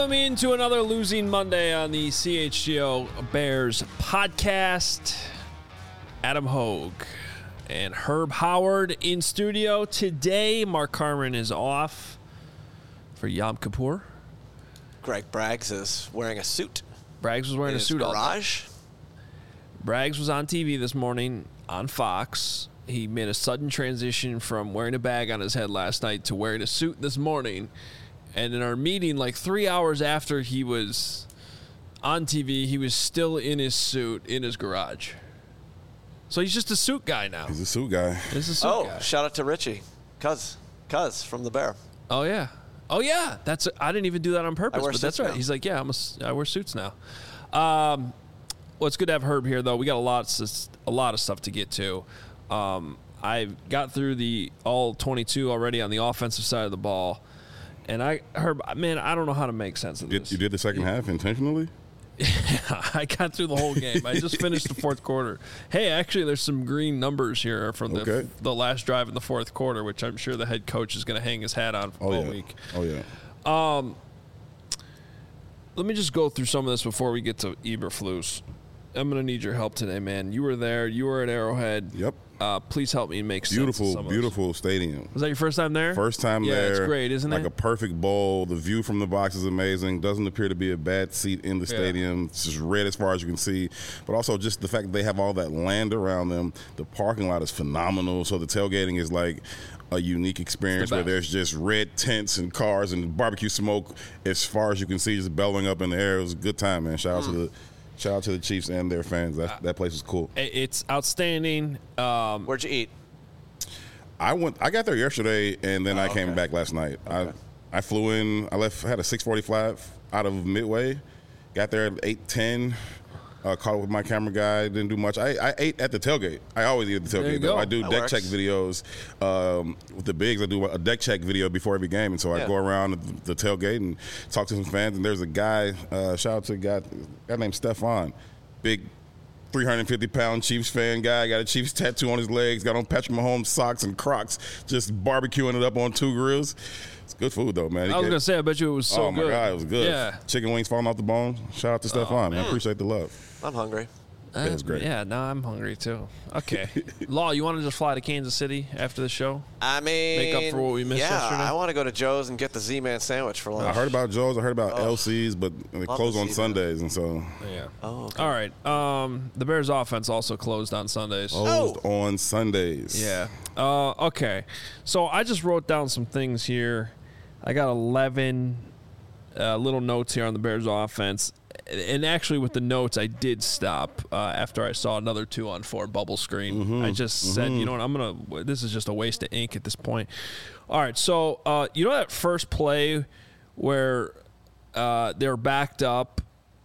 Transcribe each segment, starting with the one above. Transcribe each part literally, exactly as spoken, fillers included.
Welcome into another Losing Monday on the C H G O Bears podcast. Adam Hogue and Herb Howard in studio today. Mark Carman is off for Yom Kippur. Greg Braggs is wearing a suit. Braggs was wearing in a his suit all day. garage. Braggs was on T V this morning on Fox. He made a sudden transition from wearing a bag on his head last night to wearing a suit this morning. And in our meeting, like three hours after he was on T V, he was still in his suit in his garage. So he's just a suit guy now. He's a suit guy. He's a suit Oh, guy. shout out to Richie. Cuz. Cuz from the Bear. Oh, yeah. Oh, yeah. That's I didn't even do that on purpose, I wear but that's suits right. now. He's like, yeah, I'm a, I wear suits now. Um, well, it's good to have Herb here, though. We got a lot, a lot of stuff to get to. Um, I got through the all twenty-two already on the offensive side of the ball. And I, Herb, man, I don't know how to make sense of You this. did, you did the second half intentionally? I got through the whole game. I just finished the fourth quarter. Hey, actually, there's some green numbers here from the Okay. the last drive in the fourth quarter, which I'm sure the head coach is going to hang his hat on Oh, all yeah. week. Oh, yeah. Let me just go through some of this before we get to Eberflus. I'm going to need your help today, man. You were there. You were at Arrowhead. Yep. Uh, please help me make sense of Beautiful, some of this. beautiful stadium. Was that your first time there? First time yeah, there. it's great, isn't like it? Like a perfect bowl. The view from the box is amazing. Doesn't appear to be a bad seat in the Yeah. stadium. It's just red as far as you can see. But also just the fact that they have all that land around them. The parking lot is phenomenal. So the tailgating is like a unique experience where best. there's just red tents and cars and barbecue smoke as far as you can see, just bellowing up in the air. It was a good time, man. Shout out to the shout out to the Chiefs and their fans. That that place was cool. It- It's outstanding. Um, Where'd you eat? I went. I got there yesterday, and then Oh, I came okay. back last night. Okay. I I flew in. I left. I had a six forty-five out of Midway. Got there at eight ten. Uh, caught up with my camera guy. Didn't do much. I, I ate at the tailgate. I always eat at the There you tailgate. Though. go. I do That deck works. check videos um, with the bigs. I do a deck check video before every game, and so I Yeah. go around the, the tailgate and talk to some fans. And there's a guy. Uh, shout out to a guy, guy named Stefan, big three hundred fifty pound Chiefs fan guy, got a Chiefs tattoo on his legs, got on Patrick Mahomes socks and Crocs, just barbecuing it up on two grills. It's good food, though, man. He I was get- going to say, I bet you it was so oh, my good. God, it was good. Yeah. Chicken wings falling off the bone. Shout out to Stefan, man. man. Appreciate the love. I'm hungry. It was great. Yeah, now I'm hungry too. Okay. Law, you want to just fly to Kansas City after the show? I mean, Make up for what we missed yeah, yesterday? I want to go to Joe's and get the Z-Man sandwich for lunch. I heard about Joe's. I heard about Oh. L C's, but they Love close to on see that. Sundays, and so Yeah. Oh, okay. All right. Um, the Bears offense also closed on Sundays. closed on Sundays. Yeah. Uh, okay. So I just wrote down some things here. I got eleven uh, little notes here on the Bears offense. And actually, with the notes, I did stop uh, after I saw another two on four bubble screen. Mm-hmm. I just said, you know what, I'm going to, this is just a waste of ink at this point. All right. So, uh, you know that first play where uh, they were backed up?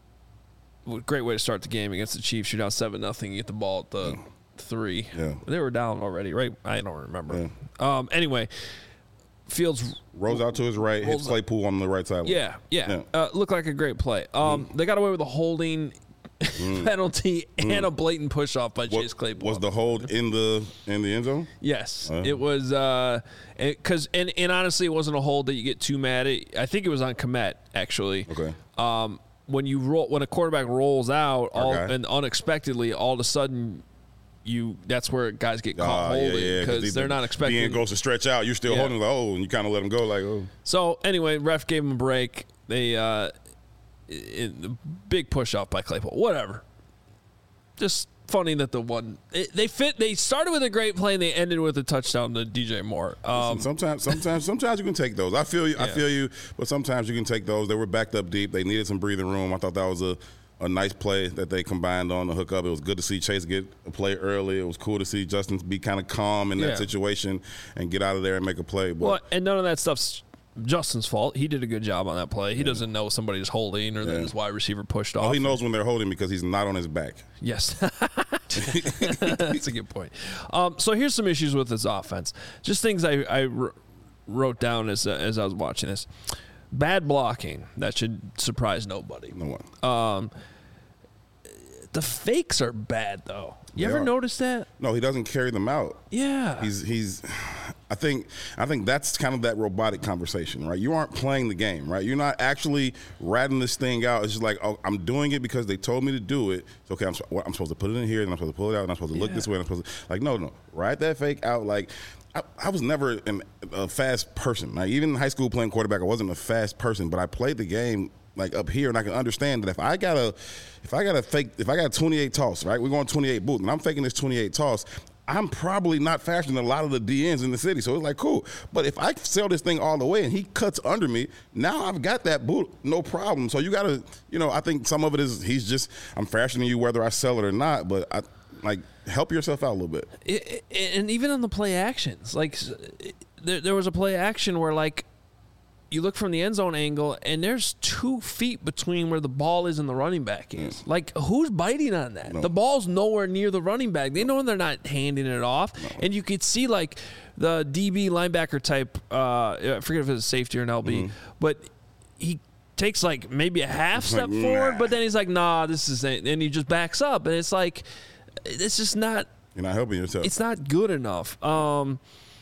Great way to start the game against the Chiefs. You're down seven nothing. You get the ball at the three. Yeah. They were down already, right? I don't remember. Um, anyway, Fields Rolls out to his right, hits Rolls- Claypool on the right side. Yeah, yeah. Yeah. Uh, looked like a great play. Um, They got away with a holding penalty and a blatant push off by What, Chase Claypool. was the hold in the in the end zone? Yes, Uh. it was. Uh, because and, and honestly, it wasn't a hold that you get too mad at. I think it was on Komet actually. Okay. Um, when you roll, when a quarterback rolls out, all Okay. and unexpectedly, all of a sudden, you that's where guys get caught Ah, holding yeah, yeah, because they're not expecting. Being goes to stretch out, you're still Yeah. holding like, oh, and you kind of let him go like, oh. So anyway, ref gave him a break. They uh, it, the big push off by Claypool. Whatever. Just funny that the one it, they fit. They started with a great play and they ended with a touchdown to D J Moore. Um, sometimes, sometimes, sometimes you can take those. I feel you. I Yeah. feel you. But sometimes you can take those. They were backed up deep. They needed some breathing room. I thought that was a, a nice play that they combined on the hookup. It was good to see Chase get a play early. It was cool to see Justin be kind of calm in Yeah. that situation and get out of there and make a play. But well, and none of that stuff's Justin's fault. He did a good job on that play. He doesn't know somebody's holding or that Yeah. his wide receiver pushed off. all he knows when they're holding because he's not on his back. Yes. That's a good point. Um, so here's some issues with this offense. Just things I, I wr- wrote down as, uh, as I was watching this. Bad blocking. That should surprise nobody. No one. Um, the fakes are bad, though. You They ever are. notice that? No, he doesn't carry them out. Yeah. He's he's. I think I think that's kind of that robotic conversation, right? You aren't playing the game, right? You're not actually ratting this thing out. It's just like, oh, I'm doing it because they told me to do it. So, okay, I'm, well, I'm supposed to put it in here, and I'm supposed to pull it out, and I'm supposed to look Yeah. this way, and I'm supposed to, like, no, no. Write that fake out. Like, I, I was never an, a fast person. Like, even in high school playing quarterback, I wasn't a fast person, but I played the game like up here, and I can understand that if I got a, if I got a fake, if I got a twenty-eight toss, right? We're going twenty-eight boot, and I'm faking this twenty-eight toss. I'm probably not faster than a lot of the D Ns in the city, so it's like cool. But if I sell this thing all the way and he cuts under me, now I've got that boot, no problem. So you got to, you know, I think some of it is he's just I'm faster than you whether I sell it or not. But I like help yourself out a little bit. It, it, and even on the play actions, like it, there, there was a play action where like you look from the end zone angle and there's two feet between where the ball is and the running back is. Mm. Like, who's biting on that? No. The ball's nowhere near the running back. They know they're not handing it off. No. And you could see, like, the D B linebacker type, uh, I forget if it's a safety or an L B, mm-hmm. but he takes, like, maybe a half step like, forward, nah. but then he's like, nah, this is it. And he just backs up. And it's like, it's just not. You're not helping yourself. It's not good enough. Um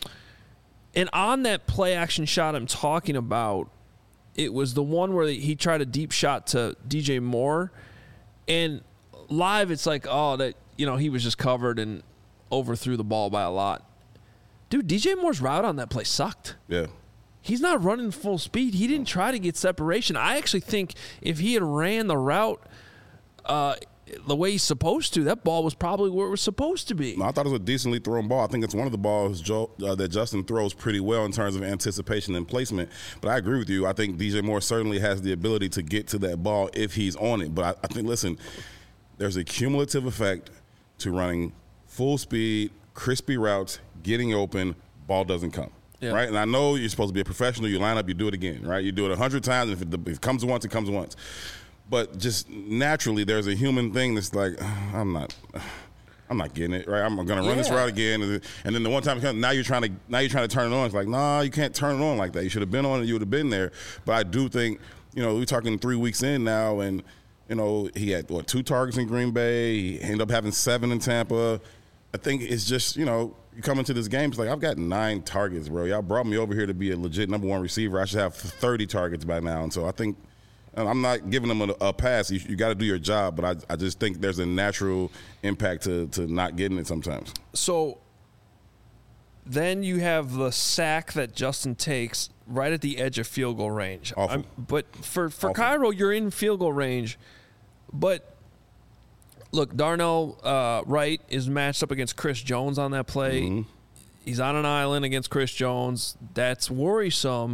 And on that play action shot I'm talking about, it was the one where he tried a deep shot to D J Moore. And live, it's like, oh, that, you know, he was just covered and overthrew the ball by a lot. Dude, D J Moore's route on that play sucked. Yeah. He's not running full speed. He didn't try to get separation. I actually think if he had ran the route uh, the way he's supposed to, that ball was probably where it was supposed to be. No, I thought it was a decently thrown ball. I think it's one of the balls Joe, uh, that Justin throws pretty well in terms of anticipation and placement. But I agree with you. I think D J Moore certainly has the ability to get to that ball if he's on it. But I, I think, listen, there's a cumulative effect to running full speed, crispy routes, getting open, ball doesn't come. Yeah. Right? And I know you're supposed to be a professional. You line up, you do it again, right? You do it a hundred times, and if it, if it comes once, it comes once. But just naturally, there's a human thing that's like, I'm not, I'm not getting it, right? I'm gonna run yeah. this route again, and then the one time it comes, now you're trying to, now you're trying to turn it on. It's like, nah, you can't turn it on like that. You should have been on it. You would have been there. But I do think, you know, we're talking three weeks in now, and you know, he had what two targets in Green Bay. He ended up having seven in Tampa. I think it's just, you know, you come into this game, it's like, I've got nine targets, bro. Y'all brought me over here to be a legit number one receiver. I should have thirty targets by now, and so I think. I'm not giving them a, a pass. You, you got to do your job, but I, I just think there's a natural impact to, to not getting it sometimes. So then you have the sack that Justin takes right at the edge of field goal range. Awful. But for, for Awful. Cairo, you're in field goal range. But, look, Darnell uh, Wright is matched up against Chris Jones on that play. Mm-hmm. He's on an island against Chris Jones. That's worrisome.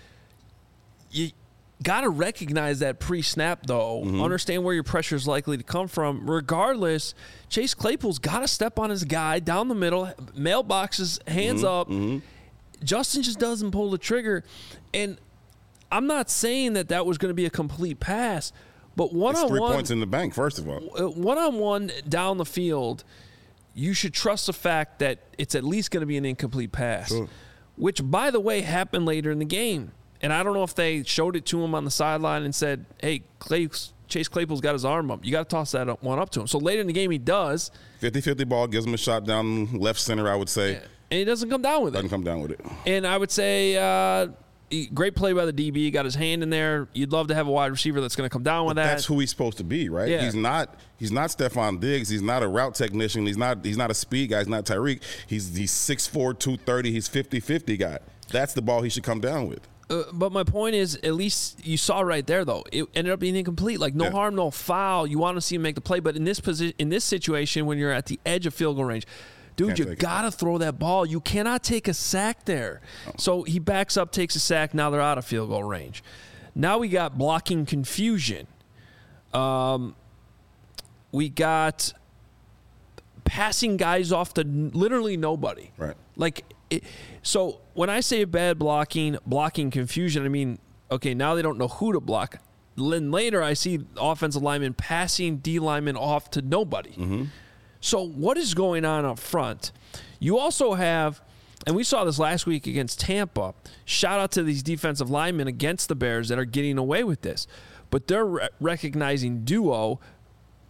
You got to recognize that pre-snap, though. Mm-hmm. Understand where your pressure is likely to come from. Regardless, Chase Claypool's got to step on his guy down the middle, mailboxes, hands mm-hmm. up. Mm-hmm. Justin just doesn't pull the trigger. And I'm not saying that that was going to be a complete pass, but one-on-one. It's three points in the bank, first of all. One-on-one down the field, you should trust the fact that it's at least going to be an incomplete pass, sure. which, by the way, happened later in the game. And I don't know if they showed it to him on the sideline and said, hey, Clay, Chase Claypool's got his arm up. You got to toss that one up to him. So later in the game, he does. fifty-fifty ball, gives him a shot down left center, I would say. Yeah. And he doesn't come down with doesn't it. Doesn't come down with it. And I would say uh, great play by the D B. He got his hand in there. You'd love to have a wide receiver that's going to come down with but that. That's who he's supposed to be, right? Yeah. He's not He's not Stephon Diggs. He's not a route technician. He's not He's not a speed guy. He's not Tyreek. He's he's six four, two thirty. He's fifty-fifty guy. That's the ball he should come down with. Uh, but my point is, at least you saw right there, though, it ended up being incomplete. Like, no yeah. harm, no foul. You want to see him make the play. But in this position, in this situation, when you're at the edge of field goal range, dude, Can't you got to throw that ball. You cannot take a sack there. Oh. So he backs up, takes a sack. Now they're out of field goal range. Now we got blocking confusion. Um, we got passing guys off to literally nobody. Right. Like, it, so when I say bad blocking, blocking confusion, I mean, okay, now they don't know who to block. Then later I see offensive linemen passing D linemen off to nobody. Mm-hmm. So what is going on up front? You also have, and we saw this last week against Tampa, shout out to these defensive linemen against the Bears that are getting away with this. But they're re- recognizing duo,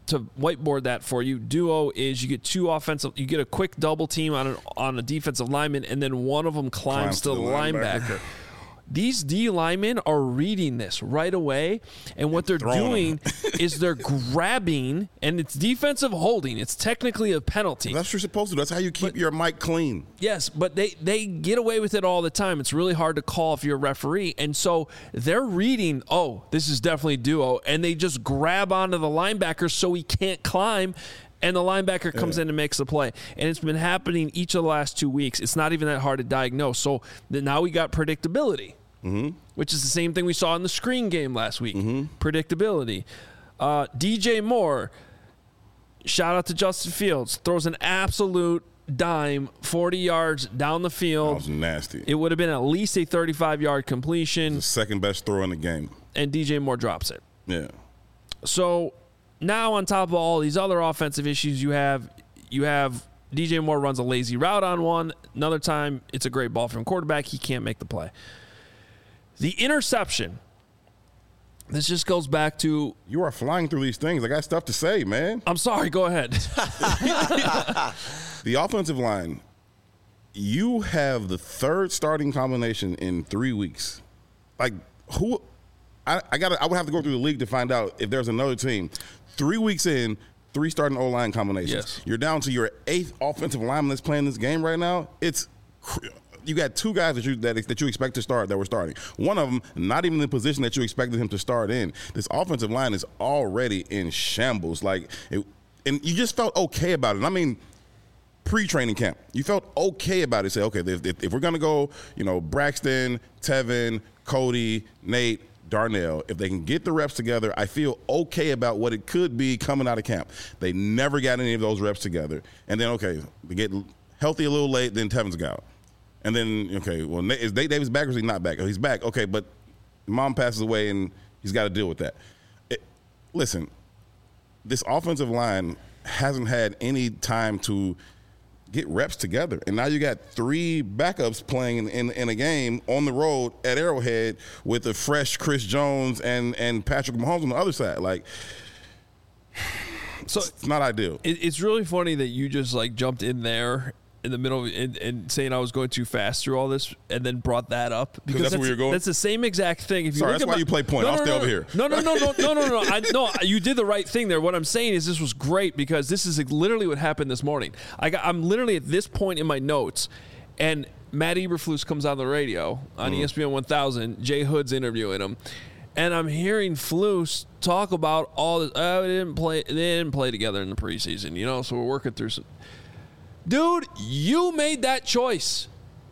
to whiteboard that for you, duo is you get two offensive, you get a quick double team on an, on a defensive lineman, and then one of them climbs, climbs to, to the linebacker. linebacker. These D linemen are reading this right away, and what they're doing is they're grabbing, and it's defensive holding. It's technically a penalty. That's what you're supposed to do. That's how you keep but, your mic clean. Yes, but they, they get away with it all the time. It's really hard to call if you're a referee, and so they're reading, oh, this is definitely duo, and they just grab onto the linebacker so he can't climb, and the linebacker comes yeah. in and makes the play. And it's been happening each of the last two weeks. It's not even that hard to diagnose. So now we got predictability, mm-hmm. which is the same thing we saw in the screen game last week. Mm-hmm. Predictability. Uh, D J Moore, shout out to Justin Fields, throws an absolute dime forty yards down the field. That was nasty. It would have been at least a thirty-five-yard completion. The second best throw in the game. And D J Moore drops it. Yeah. So now on top of all these other offensive issues you have, you have D J Moore runs a lazy route on one. Another time, it's a great ball from quarterback. He can't make the play. The interception, this just goes back to... You are flying through these things. I got stuff to say, man. I'm sorry. Go ahead. The offensive line, you have the third starting combination in three weeks. Like, who... I, I got. I would have to go through the league to find out if there's another team. Three weeks in, three starting O-line combinations. Yes. You're down to your eighth offensive lineman that's playing this game right now. It's you got two guys that you that, that you expect to start that were starting. One of them not even in the position that you expected him to start in. This offensive line is already in shambles. Like, it, and you just felt okay about it. I mean, pre-training camp, you felt okay about it. Say, okay, if, if, if we're gonna go, you know, Braxton, Tevin, Cody, Nate, Darnell, if they can get the reps together, I feel okay about what it could be coming out of camp. They never got any of those reps together. And then, okay, they get healthy a little late, then Tevin's got out. And then, okay, well, is Nate Davis back or is he not back? Oh, he's back. Okay, but mom passes away and he's got to deal with that. It, listen, this offensive line hasn't had any time to get reps together. And now you got three backups playing in, in, in a game on the road at Arrowhead with a fresh Chris Jones and, and Patrick Mahomes on the other side. Like, so it's not ideal. It, it's really funny that you just like jumped in there in the middle of, and, and saying I was going too fast through all this and then brought that up. Because that's, that's where you're going? That's the same exact thing. If you Sorry, look that's at why my, you play point. No, I'll no, stay no, over here. No, no, no, no, no, no, no. I, no, you did the right thing there. What I'm saying is this was great because this is literally what happened this morning. I got, I'm literally at this point in my notes, and Matt Eberflus comes on the radio on mm. E S P N one thousand. Jay Hood's interviewing him. And I'm hearing Flus talk about all this. Oh, they didn't play. They didn't play together in the preseason, you know. So we're working through some. Dude, you made that choice.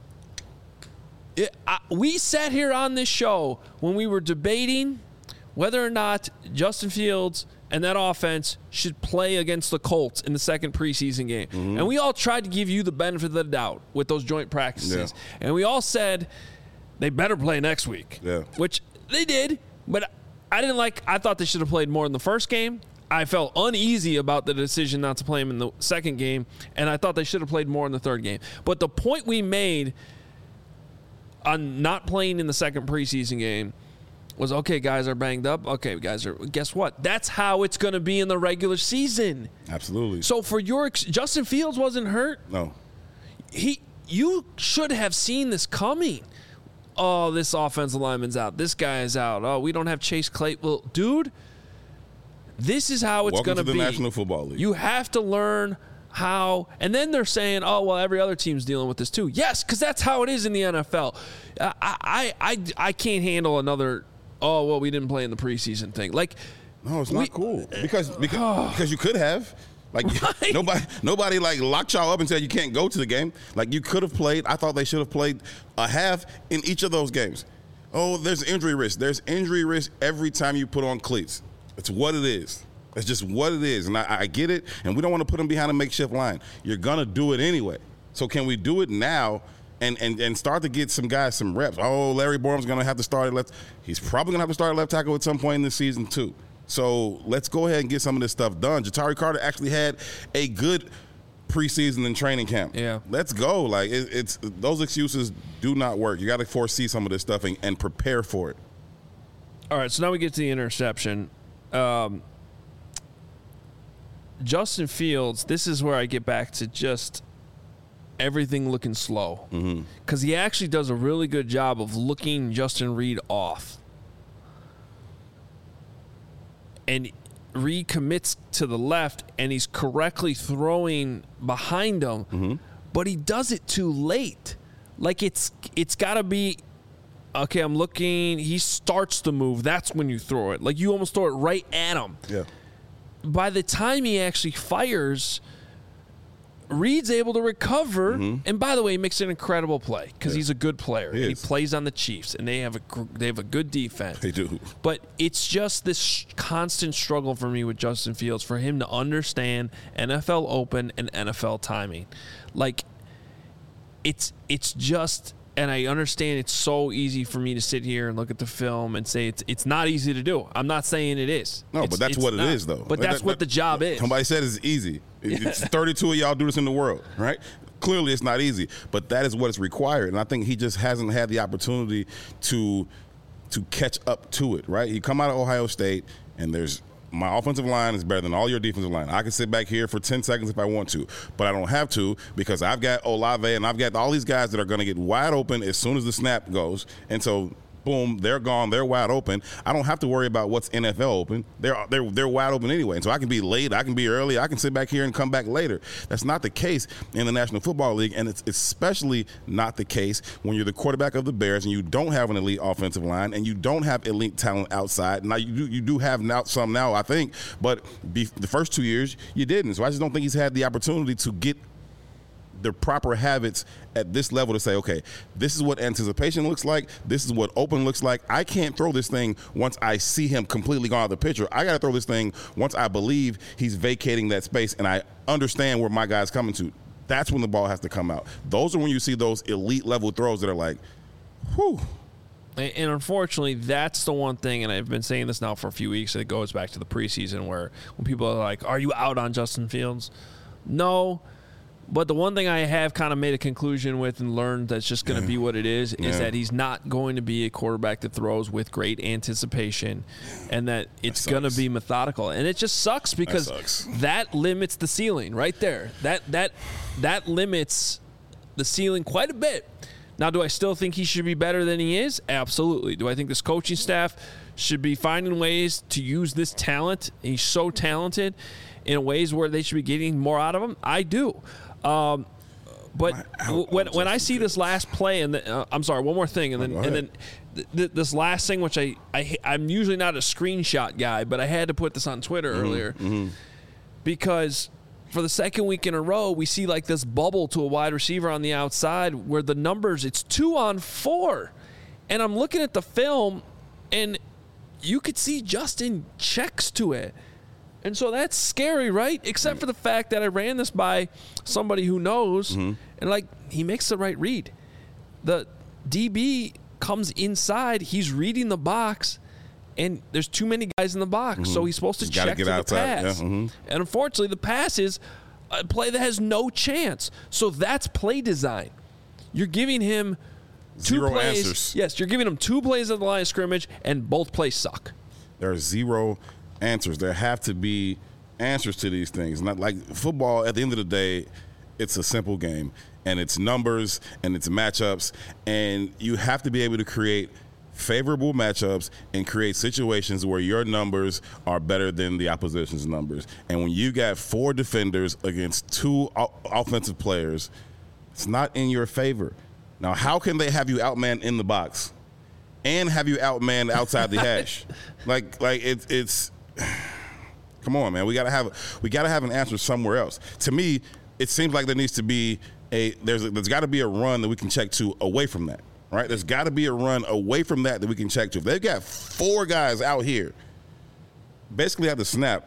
It, I, we sat here on this show when we were debating whether or not Justin Fields and that offense should play against the Colts in the second preseason game. Mm-hmm. And we all tried to give you the benefit of the doubt with those joint practices. Yeah. And we all said they better play next week, yeah. which they did. But I didn't like – I thought they should have played more in the first game. I felt uneasy about the decision not to play him in the second game, and I thought they should have played more in the third game. But the point we made on not playing in the second preseason game was, okay, guys are banged up. Okay, guys are – guess what? That's how it's going to be in the regular season. Absolutely. So for your – Justin Fields wasn't hurt. No. He, you should have seen this coming. Oh, this offensive lineman's out. This guy is out. Oh, we don't have Chase Claypool. Well, dude – this is how it's going to be. Welcome to the National Football League. You have to learn how, and then they're saying, "Oh, well, every other team's dealing with this too." Yes, because that's how it is in the N F L. I, I, I, I can't handle another. Oh, well, we didn't play in the preseason thing. Like, no, it's not we, cool because because, because you could have. Like right. nobody, nobody like locked y'all up and said you can't go to the game. Like you could have played. I thought they should have played a half in each of those games. Oh, there's injury risk. There's injury risk every time you put on cleats. It's what it is. It's just what it is. And I, I get it, and we don't want to put them behind a makeshift line. You're going to do it anyway. So can we do it now and, and, and start to get some guys some reps? Oh, Larry Borum's going to have to start at left. He's probably going to have to start at left tackle at some point in this season too. So let's go ahead and get some of this stuff done. Ja'Tyre Carter actually had a good preseason and training camp. Yeah. Let's go. Like it, it's those excuses do not work. You got to foresee some of this stuff and, and prepare for it. All right, so now we get to the interception. Um, Justin Fields, this is where I get back to just everything looking slow. Because mm-hmm. he actually does a really good job of looking Justin Reed off. And Reed commits to the left, and he's correctly throwing behind him, mm-hmm. but he does it too late. Like, it's it's got to be, okay, I'm looking, he starts the move, that's when you throw it. Like, you almost throw it right at him. Yeah. By the time he actually fires, Reed's able to recover, mm-hmm. and by the way, he makes an incredible play because yeah. he's a good player. He, and he plays on the Chiefs, and they have a they have a good defense. They do. But it's just this constant struggle for me with Justin Fields for him to understand N F L open and N F L timing. Like, it's it's just, and I understand it's so easy for me to sit here and look at the film and say it's it's not easy to do. I'm not saying it is. No, it's, but that's what it not. is, though. But that's that, what that, the job is. Somebody said it's easy. It's thirty-two of y'all do this in the world, right? Clearly, it's not easy, but that is what is required, and I think he just hasn't had the opportunity to to catch up to it, right? He come out of Ohio State, and there's my offensive line is better than all your defensive line. I can sit back here for ten seconds if I want to, but I don't have to because I've got Olave and I've got all these guys that are going to get wide open as soon as the snap goes, and so boom, they're gone, they're wide open. I don't have to worry about what's N F L open. They're they're they're wide open anyway. And so I can be late, I can be early, I can sit back here and come back later. That's not the case in the National Football League, and it's especially not the case when you're the quarterback of the Bears and you don't have an elite offensive line and you don't have elite talent outside. Now you do you do have now some now, I think, but be, the first two years you didn't. So I just don't think he's had the opportunity to get the proper habits at this level to say, okay, this is what anticipation looks like. This is what open looks like. I can't throw this thing once I see him completely gone out of the picture. I got to throw this thing once I believe he's vacating that space and I understand where my guy's coming to. That's when the ball has to come out. Those are when you see those elite level throws that are like, whew. And unfortunately, that's the one thing, and I've been saying this now for a few weeks, and it goes back to the preseason where when people are like, are you out on Justin Fields? No. But the one thing I have kind of made a conclusion with and learned that's just going to yeah. be what it is, yeah. is that he's not going to be a quarterback that throws with great anticipation and that it's going to be methodical. And it just sucks because that, sucks. that limits the ceiling right there. That that that limits the ceiling quite a bit. Now, do I still think he should be better than he is? Absolutely. Do I think this coaching staff should be finding ways to use this talent? He's so talented in ways where they should be getting more out of him? I do. Um, but when when I see this last play, and the, uh, I'm sorry, one more thing, and then and then th- th- this last thing, which I, I I'm usually not a screenshot guy, but I had to put this on Twitter mm-hmm, earlier mm-hmm. because for the second week in a row, we see like this bubble to a wide receiver on the outside where the numbers it's two on four, and I'm looking at the film, and you could see Justin checks to it. And so that's scary, right? Except for the fact that I ran this by somebody who knows, mm-hmm. and, like, he makes the right read. The D B comes inside. He's reading the box, and there's too many guys in the box, mm-hmm. so he's supposed to Just check get to outside. the pass. Yeah. Mm-hmm. And unfortunately, the pass is a play that has no chance. So that's play design. You're giving him two Zero plays. answers. Yes, you're giving him two plays at the line of scrimmage, and both plays suck. There are zero answers. There have to be answers to these things. Not like football, at the end of the day, it's a simple game, and it's numbers and it's matchups, and you have to be able to create favorable matchups and create situations where your numbers are better than the opposition's numbers. And when you got four defenders against two o- offensive players, it's not in your favor. Now, how can they have you outmanned in the box and have you outmanned outside the hash? Like, like it's it's. Come on, man. We gotta have we gotta have an answer somewhere else. To me, it seems like there needs to be a there's a, there's got to be a run that we can check to away from that, right? There's got to be a run away from that that we can check to. If they've got four guys out here, basically at the snap,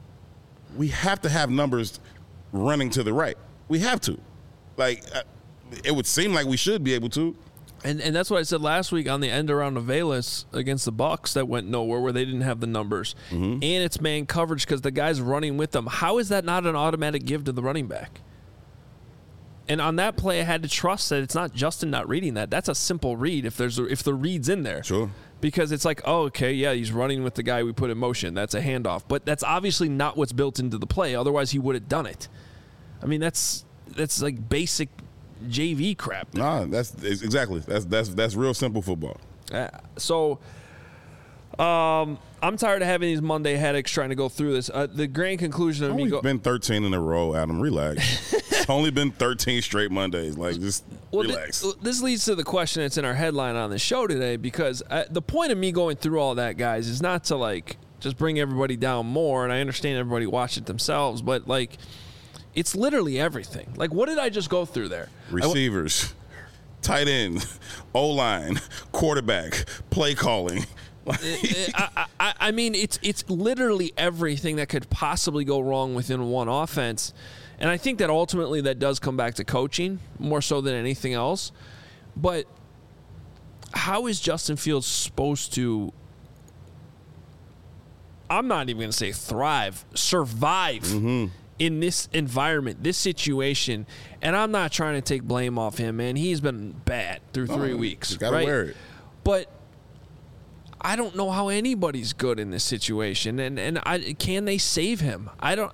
we have to have numbers running to the right. We have to. Like, it would seem like we should be able to. And and that's what I said last week on the end around of Velas against the Bucs that went nowhere where they didn't have the numbers. Mm-hmm. And it's man coverage because the guy's running with them. How is that not an automatic give to the running back? And on that play, I had to trust that it's not Justin not reading that. That's a simple read if there's a, if the read's in there. Sure. Because it's like, oh, okay, yeah, he's running with the guy we put in motion. That's a handoff. But that's obviously not what's built into the play. Otherwise, he would have done it. I mean, that's that's like basic J V crap. Nah, that's exactly. That's that's that's real simple football. Uh, so um, I'm tired of having these Monday headaches trying to go through this. Uh, the grand conclusion of It's me only go- been thirteen in a row, Adam. Relax. It's only been thirteen straight Mondays. Like, just well, relax. Th- this leads to the question that's in our headline on the show today, because uh, the point of me going through all that, guys, is not to, like, just bring everybody down more, and I understand everybody watch it themselves, but, like, it's literally everything. Like, what did I just go through there? Receivers, tight end, O-line, quarterback, play calling. I, I, I mean, it's it's literally everything that could possibly go wrong within one offense. And I think that ultimately that does come back to coaching more so than anything else. But how is Justin Fields supposed to, I'm not even going to say thrive, survive mm-hmm. in this environment, this situation? And I'm not trying to take blame off him, man. He's been bad through three oh, weeks. You got to right? wear it. But I don't know how anybody's good in this situation. And, and I, can they save him? I don't...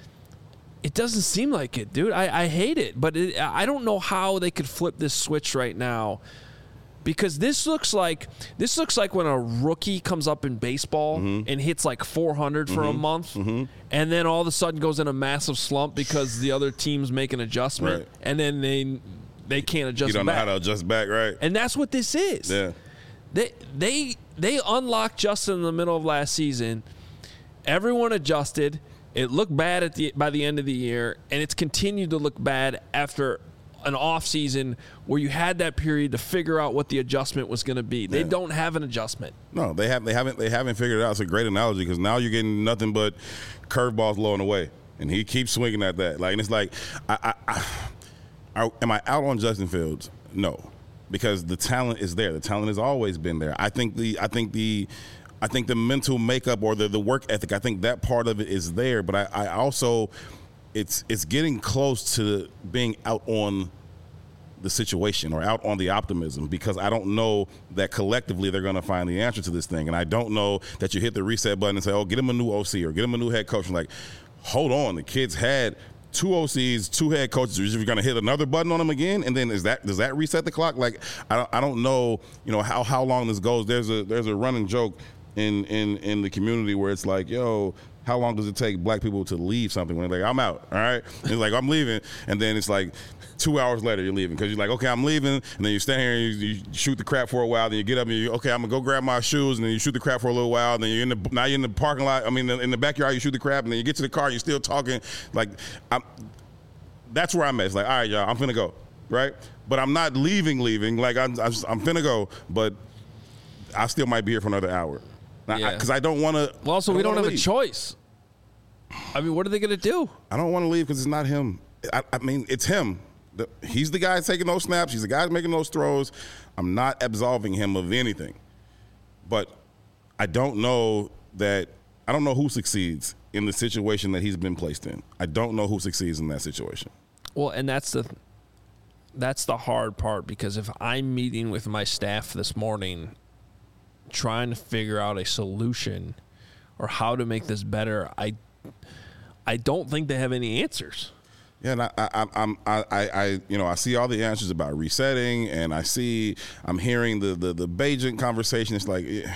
It doesn't seem like it, dude. I, I hate it, but it, I don't know how they could flip this switch right now, because this looks like this looks like when a rookie comes up in baseball mm-hmm. and hits like four hundred for mm-hmm. a month, mm-hmm. and then all of a sudden goes in a massive slump because the other teams make an adjustment, right. and then they they can't adjust. You don't back. know how to adjust back, right? And that's what this is. Yeah. They they they unlocked Justin in the middle of last season. Everyone adjusted. It looked bad at the by the end of the year, and it's continued to look bad after an off season where you had that period to figure out what the adjustment was going to be. They yeah. don't have an adjustment. No, they have. They haven't. They haven't figured it out. It's a great analogy, because now you're getting nothing but curveballs blowing away, and he keeps swinging at that. Like, and it's like, I, I, I, I, am I out on Justin Fields? No, because the talent is there. The talent has always been there. I think the. I think the. I think the mental makeup or the, the work ethic, I think that part of it is there. But I, I also, it's it's getting close to being out on the situation or out on the optimism, because I don't know that collectively they're going to find the answer to this thing. And I don't know that you hit the reset button and say, oh, get him a new O C or get him a new head coach. And like, hold on, the kids had two O Cs, two head coaches. You're going to hit another button on them again, and then is that does that reset the clock? Like, I don't, I don't know, you know, how how long this goes. There's a there's a running joke in in in the community where it's like, yo, how long does it take black people to leave something when they're like, I'm out, all right? And it's like, I'm leaving, and then it's like two hours later you're leaving, because you're like, okay, I'm leaving, and then you stand here and you, you shoot the crap for a while, then you get up and you, okay, I'm gonna go grab my shoes, and then you shoot the crap for a little while, and then you're in the now you're in the parking lot, I mean in the backyard, you shoot the crap, and then you get to the car, you're still talking. Like, I'm, that's where I'm at. It's like, all right, y'all, I'm finna go, right? But I'm not leaving, leaving. Like, I'm, I'm, I'm finna go, but I still might be here for another hour. Because yeah. I, I don't want to. Well, also, we don't have leave. a choice. I mean, what are they going to do? I don't want to leave because it's not him. I, I mean, it's him. The, he's the guy taking those snaps. He's the guy making those throws. I'm not absolving him of anything. But I don't know that – I don't know who succeeds in the situation that he's been placed in. I don't know who succeeds in that situation. Well, and that's the that's the hard part, because if I'm meeting with my staff this morning – trying to figure out a solution or how to make this better, I I don't think they have any answers. Yeah, and I, I, I'm, I, I, you know, I see all the answers about resetting, and I see, I'm hearing the the the Bagent conversation. It's like, yeah,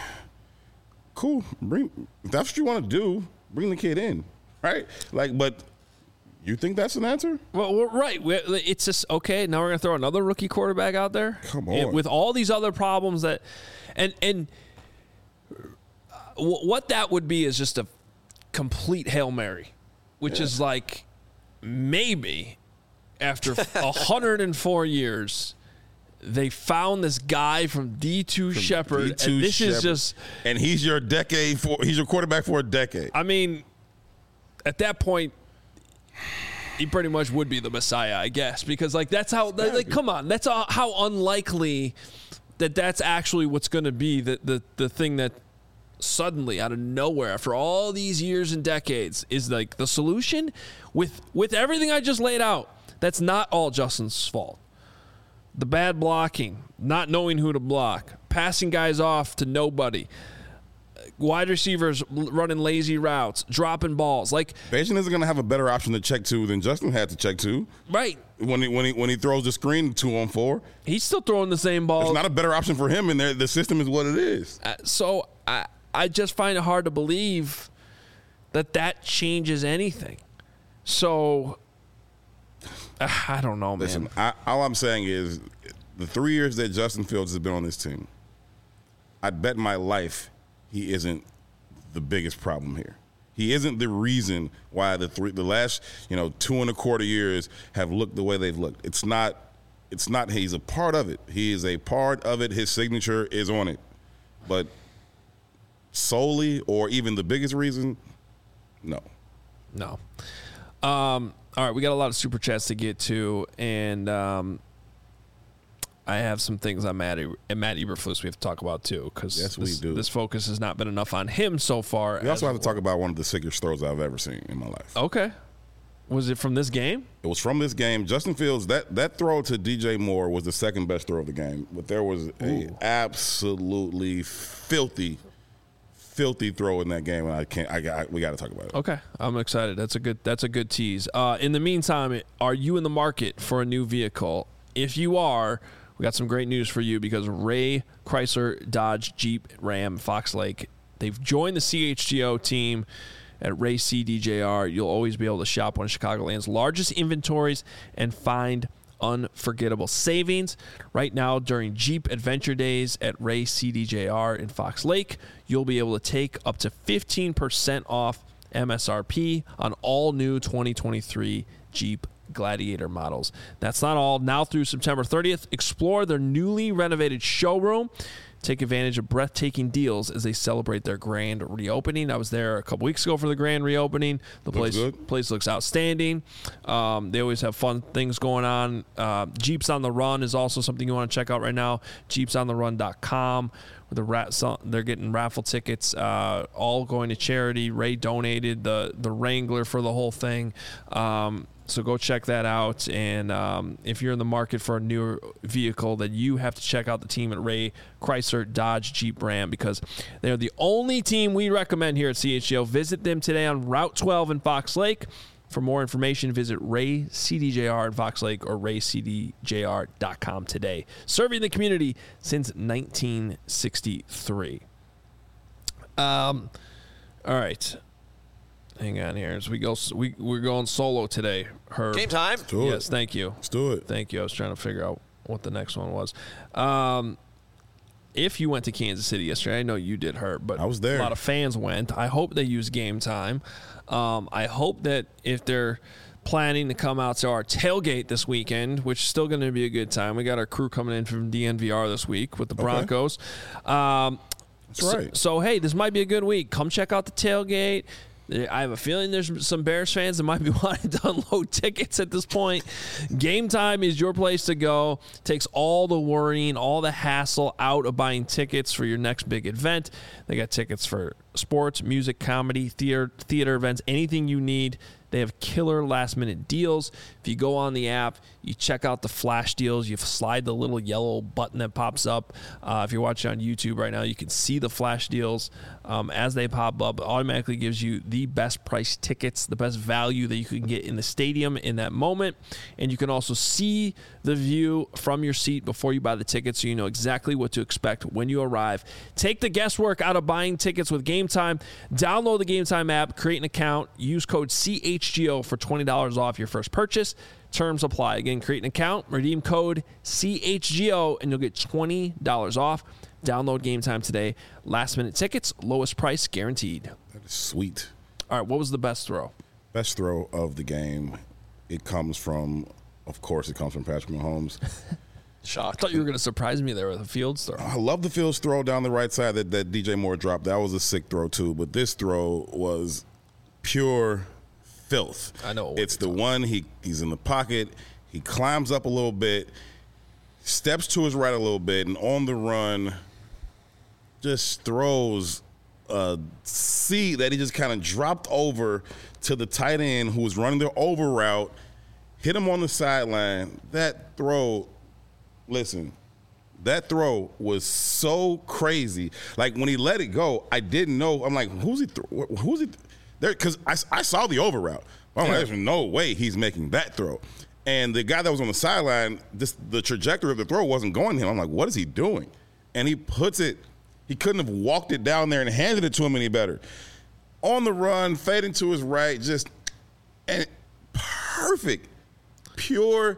cool, bring if that's what you want to do, bring the kid in, right? Like, but you think that's an answer? Well, we're right. It's just okay. Now we're gonna throw another rookie quarterback out there. Come on, with all these other problems that, and and. What that would be is just a complete Hail Mary, which yeah. is like maybe after one hundred four years, they found this guy from D two from Shepherd, D two and this Shepherd. is just – and he's your decade for – he's your quarterback for a decade. I mean, at that point, he pretty much would be the Messiah, I guess, because, like, that's how – like, come on. That's how unlikely that that's actually what's going to be the, the, the thing that – suddenly out of nowhere after all these years and decades is like the solution with with everything I just laid out. That's not all Justin's fault. The bad blocking, not knowing who to block, passing guys off to nobody, wide receivers running lazy routes, dropping balls. Like Bayesian isn't going to have a better option to check to than Justin had to check to. Right. When he when he when he throws the screen two on four, he's still throwing the same ball. It's not a better option for him, and the system is what it is. Uh, so I I just find it hard to believe that that changes anything. So uh, I don't know, man. Listen, I, all I'm saying is the three years that Justin Fields has been on this team, I'd bet my life he isn't the biggest problem here. He isn't the reason why the three, the last, you know, two and a quarter years have looked the way they've looked. It's not, it's not. He's a part of it. He is a part of it. His signature is on it, but solely or even the biggest reason, no, no. Um, all right, we got a lot of super chats to get to, and um, I have some things on Matt, e- Matt Eberflus we have to talk about too, because yes, this, we do. This focus has not been enough on him so far. We also have to talk about one of the sickest throws I've ever seen in my life. Okay. Was it from this game? It was from this game. Justin Fields, that, that throw to D J Moore was the second best throw of the game, but there was a Ooh. absolutely filthy, filthy throw in that game, and I can't. I got. We got to talk about it. Okay, I'm excited. That's a good. That's a good tease. Uh, in the meantime, are you in the market for a new vehicle? If you are, we got some great news for you because Ray Chrysler Dodge Jeep Ram Fox Lake, they've joined the C H G O team at Ray C D J R. You'll always be able to shop one of Chicagoland's largest inventories and find unforgettable savings. Right now, during Jeep Adventure Days at Ray C D J R in Fox Lake, you'll be able to take up to fifteen percent off M S R P on all new twenty twenty-three Jeep Gladiator models. That's not all. Now through September thirtieth, explore their newly renovated showroom. Take advantage of breathtaking deals as they celebrate their grand reopening. I was there a couple weeks ago for the grand reopening. The looks place good. place looks outstanding. Um, they always have fun things going on. Uh, Jeeps on the Run is also something you want to check out right now. jeeps on the run dot com. The rat, they're getting raffle tickets, uh, all going to charity. Ray donated the the Wrangler for the whole thing. Um, So go check that out. And um, if you're in the market for a new vehicle, then you have to check out the team at Ray Chrysler Dodge Jeep Ram because they're the only team we recommend here at C H G O. Visit them today on Route twelve in Fox Lake. For more information, visit Ray C D J R in Fox Lake or ray c d j r dot com today. Serving the community since nineteen sixty-three. Um, all right. Hang on here. As we go, we, we're going solo today. Herb. Game time. Let's do it. Yes, thank you. Let's do it. Thank you. I was trying to figure out what the next one was. Um, if you went to Kansas City yesterday, I know you did, Herb, but I was there. A lot of fans went. I hope they use Game Time. Um, I hope that if they're planning to come out to our tailgate this weekend, which is still going to be a good time. We got our crew coming in from D N V R this week with the Broncos. Okay. Um, That's so, right. So, hey, this might be a good week. Come check out the tailgate. I have a feeling there's some Bears fans that might be wanting to unload tickets at this point. Game Time is your place to go. Takes all the worrying, all the hassle out of buying tickets for your next big event. They got tickets for sports, music, comedy, theater, theater events, anything you need. They have killer last-minute deals. If you go on the app, you check out the flash deals. You slide the little yellow button that pops up. Uh, if you're watching on YouTube right now, you can see the flash deals um, as they pop up. It automatically gives you the best price tickets, the best value that you can get in the stadium in that moment. And you can also see the view from your seat before you buy the tickets so you know exactly what to expect when you arrive. Take the guesswork out of buying tickets with Game Time. Download the Game Time app, create an account, use code C H G O for twenty dollars off your first purchase. Terms apply. Again, create an account, redeem code C H G O, and you'll get twenty dollars off. Download Game Time today. Last minute tickets, lowest price guaranteed. That is sweet. All right, what was the best throw? Best throw of the game. It comes from, of course, it comes from Patrick Mahomes. Shock. I thought you were going to surprise me there with a Fields throw. I love the Fields throw down the right side that, that D J Moore dropped. That was a sick throw, too. But this throw was pure filth. I know. It's the one, he he's in the pocket. He climbs up a little bit, steps to his right a little bit, and on the run just throws a seed that he just kind of dropped over to the tight end who was running the over route. hit him on the sideline. That throw, listen, that throw was so crazy. Like, when he let it go, I didn't know. I'm like, who's he? Th- who's he? Th-? There, because I, I saw the over route. I'm like, there's no way he's making that throw. And the guy that was on the sideline, this, the trajectory of the throw wasn't going to him. I'm like, what is he doing? And he puts it. He couldn't have walked it down there and handed it to him any better. On the run, fading to his right, just and perfect, pure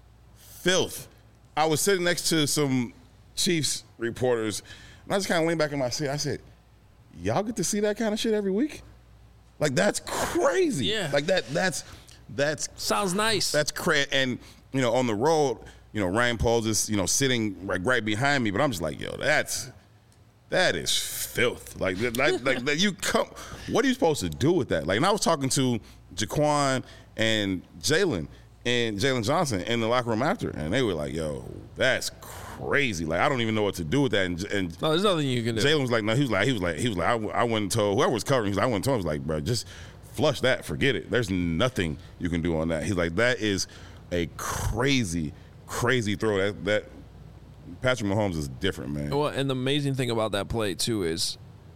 filth. I was sitting next to some Chiefs reporters, and I just kind of leaned back in my seat. I said, y'all get to see that kind of shit every week? Like, that's crazy. Yeah. Like, that. that's that's sounds nice. That's crazy. And, you know, on the road, you know, Ryan Pauls is, you know, sitting right, right behind me, but I'm just like, yo, that's that is filth. Like, like, like that you come. What are you supposed to do with that? Like, and I was talking to Jaquan and Jalen and Jalen Johnson in the locker room after, and they were like, yo, that's crazy. Like, I don't even know what to do with that. And, and no, there's nothing you can do. Jalen was like, no, he was like, he was like, he was like, I, I went and told whoever was covering. He was like, I went and told him, he was like, bro, just flush that, forget it. There's nothing you can do on that. He's like, that is a crazy, crazy throw. That that Patrick Mahomes is different, man. Well, and the amazing thing about that play too is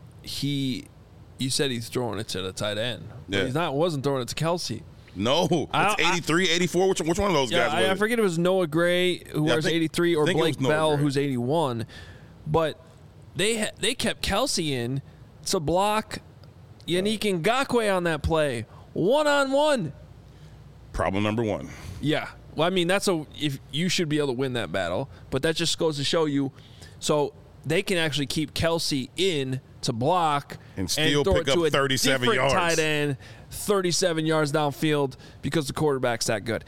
he, you said he's throwing it to the tight end, but Yeah. he's not. Wasn't throwing it to Kelsey. No, it's I- I- eighty-three, eighty-four. Which, which one of those Yeah, guys I, was I it? forget it was Noah Gray who Yeah, I wears think- eighty-three or I think it Blake was Noah Bell Gray. who's eighty-one, but they ha- they kept Kelsey in to block Yannick Ngakoue on that play, one on one. Problem number one. Yeah. Well, I mean, that's a if you should be able to win that battle, but that just goes to show you. So they can actually keep Kelsey in to block And still throw pick it up to a thirty-seven different yards. tight end, thirty-seven yards downfield because the quarterback's that good.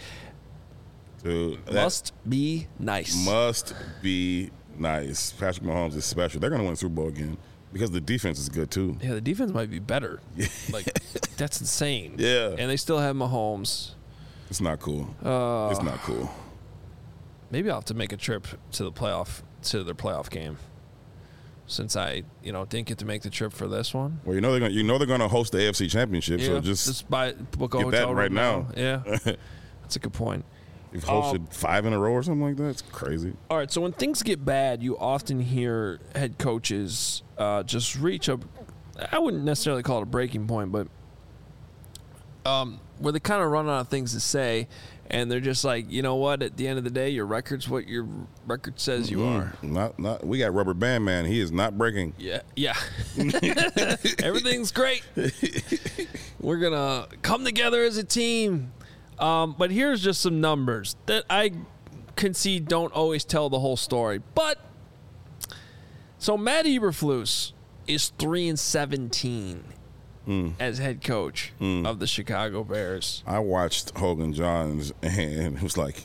Dude, that Must be nice. must be nice. Patrick Mahomes is special. They're going to win the Super Bowl again because the defense is good, too. Yeah, the defense might be better. Like, that's insane. Yeah. And they still have Mahomes. It's not cool. Uh, it's not cool. Maybe I'll have to make a trip to the playoff to their playoff game. Since I, you know, didn't get to make the trip for this one. Well, you know they're going. You know they're going to host the A F C Championship. Yeah, so just, just buy book a get hotel that right room now. Yeah, that's a good point. you've hosted Um, five in a row or something like that. It's crazy. All right, so when things get bad, you often hear head coaches uh, just reach a, I wouldn't necessarily call it a breaking point, but um, where they kind of run out of things to say, and they're just like, you know what? At the end of the day, your record's what your record says you are. Not, not. We got Rubber Band Man. He is not breaking. Yeah, yeah. Everything's great. We're gonna come together as a team. Um, but here's just some numbers that I concede don't always tell the whole story. But so Matt Eberflus is three and seventeen Mm. as head coach Mm. of the Chicago Bears. I watched Hogan Johns, and it was like,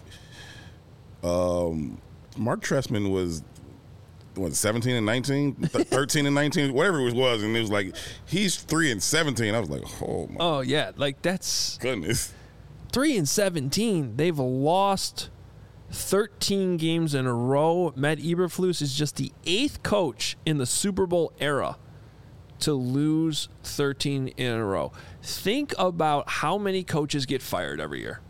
um, Mark Trestman was what seventeen and nineteen, thirteen and nineteen, whatever it was, and it was like he's three and seventeen. I was like, oh my Oh yeah, like that's goodness. three and seventeen. They've lost thirteen games in a row. Matt Eberflus is just the eighth coach in the Super Bowl era to lose thirteen in a row. Think about how many coaches get fired every year.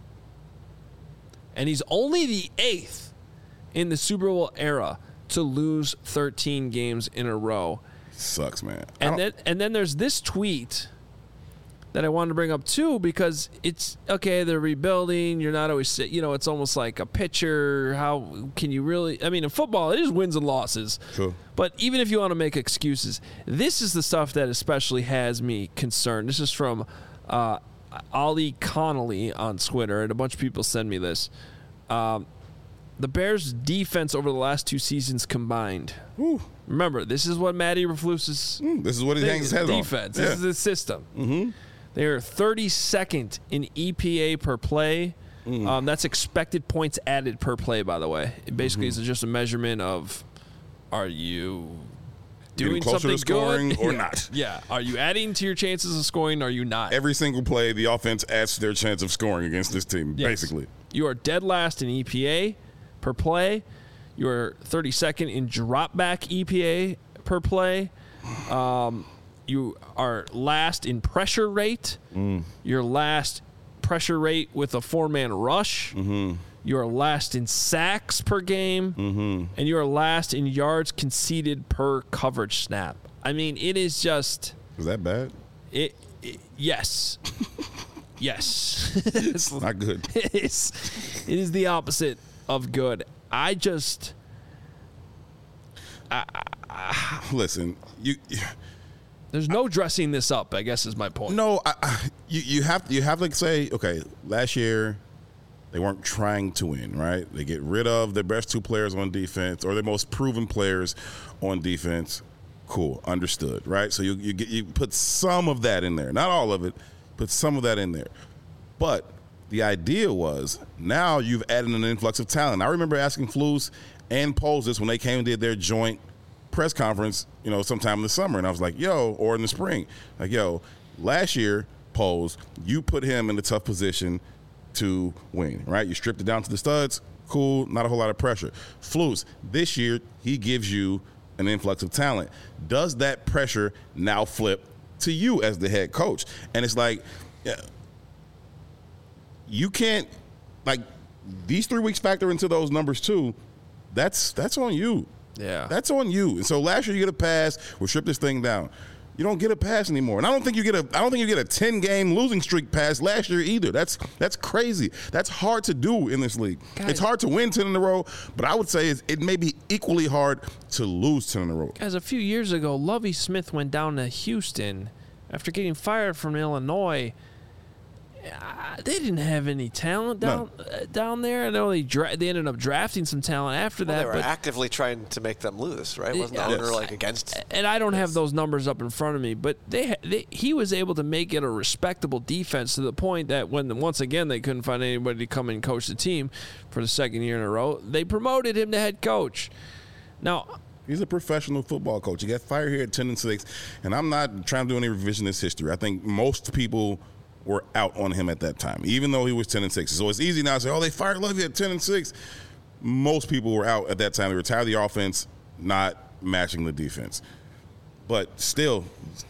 And he's only the eighth in the Super Bowl era to lose thirteen games in a row. Sucks, man. I And don't- then and then there's this tweet that I wanted to bring up too, because it's okay, they're rebuilding. You're not always, you know, it's almost like a pitcher. How can you really? I mean, in football, it is wins and losses. True. But even if you want to make excuses, this is the stuff that especially has me concerned. This is from uh, Ollie Connolly on Twitter, and a bunch of people send me this. Um, the Bears' defense over the last two seasons combined. Whew. Remember, this is what Matt Eberflus is. Mm, this is what he thing hangs his is head defense. on. This is the system. Mm-hmm. They are thirty-second in E P A per play. Mm. Um, that's expected points added per play, by the way. It basically Mm-hmm. is just a measurement of are you Getting doing closer something to scoring good or Yeah. not. Yeah. Are you adding to your chances of scoring? Or are you not? Every single play, the offense adds to their chance of scoring against this team, Yes. basically. You are dead last in E P A per play. You are thirty-second in drop back E P A per play. Um, you are last in pressure rate. Mm. You're last pressure rate with a four-man rush. Mm-hmm. You are last in sacks per game. Mm-hmm. And you are last in yards conceded per coverage snap. I mean, it is just... Was that bad? It, it yes. Yes. It's not good. It is, it is the opposite of good. I just... I, I, Listen, you... There's no dressing this up, I guess is my point. No, I, I, you, you have you have to say, okay, last year they weren't trying to win, right? They get rid of their best two players on defense or their most proven players on defense. Cool, understood, right? So you you get you put some of that in there, not all of it, put some of that in there. But the idea was now you've added an influx of talent. I remember asking Flus and Poles this when they came and did their joint press conference, you know, sometime in the summer, and I was like, yo, or in the spring, like, yo, last year, Poles, you put him in a tough position to win, right? You stripped it down to the studs, cool, not a whole lot of pressure. Flus, this year, he gives you an influx of talent. Does that pressure now flip to you as the head coach? And it's like, yeah, you can't, like, these three weeks factor into those numbers too. That's that's on you. Yeah. That's on you. And so last year you get a pass, we'll strip this thing down. You don't get a pass anymore. And I don't think you get a I don't think you get a ten game losing streak pass last year either. That's that's crazy. That's hard to do in this league. Guys, it's hard to win ten in a row, but I would say it's, it may be equally hard to lose ten in a row. Guys, a few years ago, Lovie Smith went down to Houston after getting fired from Illinois. Uh, they didn't have any talent down no. uh, down there. I know they dra- they ended up drafting some talent after Well, that. they were but actively trying to make them lose, right? Wasn't the Yes. owner like against? And I don't have those numbers up in front of me, but they, ha- they he was able to make it a respectable defense to the point that when once again they couldn't find anybody to come and coach the team for the second year in a row, they promoted him to head coach. Now, he's a professional football coach. He got fired here at ten and six, and I'm not trying to do any revisionist history. I think most people were out on him at that time, even though he was ten and six. So it's easy now to say, oh, they fired Lovie at ten and six. Most people were out at that time. They retired the offense, not matching the defense. But still,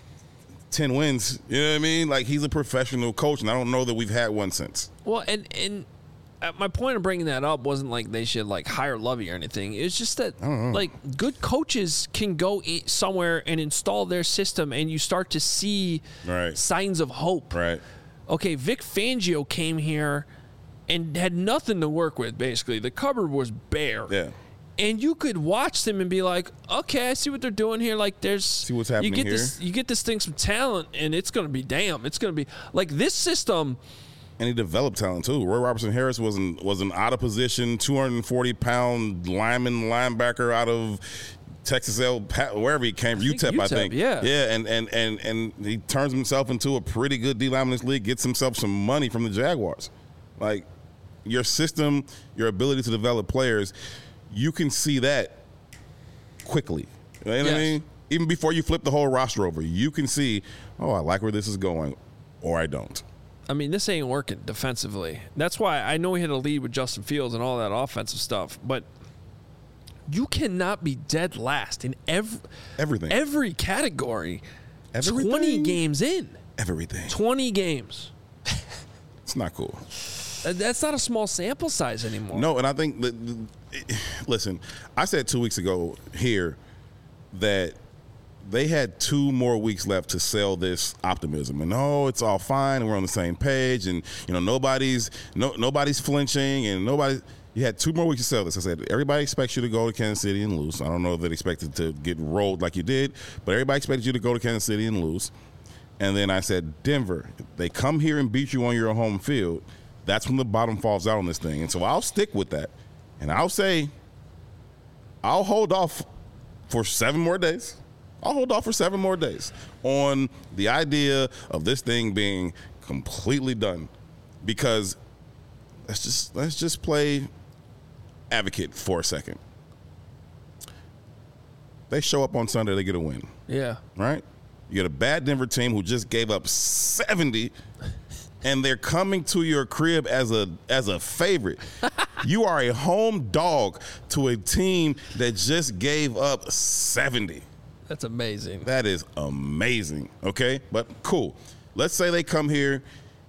ten wins, you know what I mean? Like, he's a professional coach, and I don't know that we've had one since. well, and and uh, my point of bringing that up wasn't like they should like hire Lovie or anything. It's just that like good coaches can go i- somewhere and install their system, and you start to see Right. signs of hope. Right. Okay, Vic Fangio came here and had nothing to work with, basically. The cupboard was bare. Yeah. And you could watch them and be like, okay, I see what they're doing here. Like, there's See what's happening you get here. This, you get this thing some talent, and it's going to be damn. It's going to be like this system. And he developed talent too. Roy Robertson Harris was an was an out of position, two hundred forty pound lineman linebacker out of Texas L, wherever he came, think U T E P, I U T E P, think. yeah. yeah, and and and and he turns himself into a pretty good D lineman in this league. Gets himself some money from the Jaguars. Like, your system, your ability to develop players, you can see that quickly. You know what Yes. I mean? Even before you flip the whole roster over, you can see, oh, I like where this is going, or I don't. I mean, this ain't working defensively. That's why I know we had a lead with Justin Fields and all that offensive stuff, but you cannot be dead last in every Everything. every category. Everything. twenty games in. Everything. twenty games. It's not cool. Uh, That's not a small sample size anymore. No, and I think that, listen, I said two weeks ago here that they had two more weeks left to sell this optimism, and oh, it's all fine, and we're on the same page, and you know nobody's no nobody's flinching, and nobody. You had two more weeks to sell this. I said everybody expects you to go to Kansas City and lose. I don't know if they expected to get rolled like you did, but everybody expected you to go to Kansas City and lose. And then I said, Denver, if they come here and beat you on your home field, that's when the bottom falls out on this thing. And so I'll stick with that. And I'll say, I'll hold off for seven more days. I'll hold off for seven more days on the idea of this thing being completely done. Because let's just let's just play advocate for a second. They show up on Sunday, they get a win. Yeah. Right? You got a bad Denver team who just gave up seventy, and they're coming to your crib as a as a favorite. You are a home dog to a team that just gave up seventy. That's amazing. That is amazing. Okay? But cool. Let's say they come here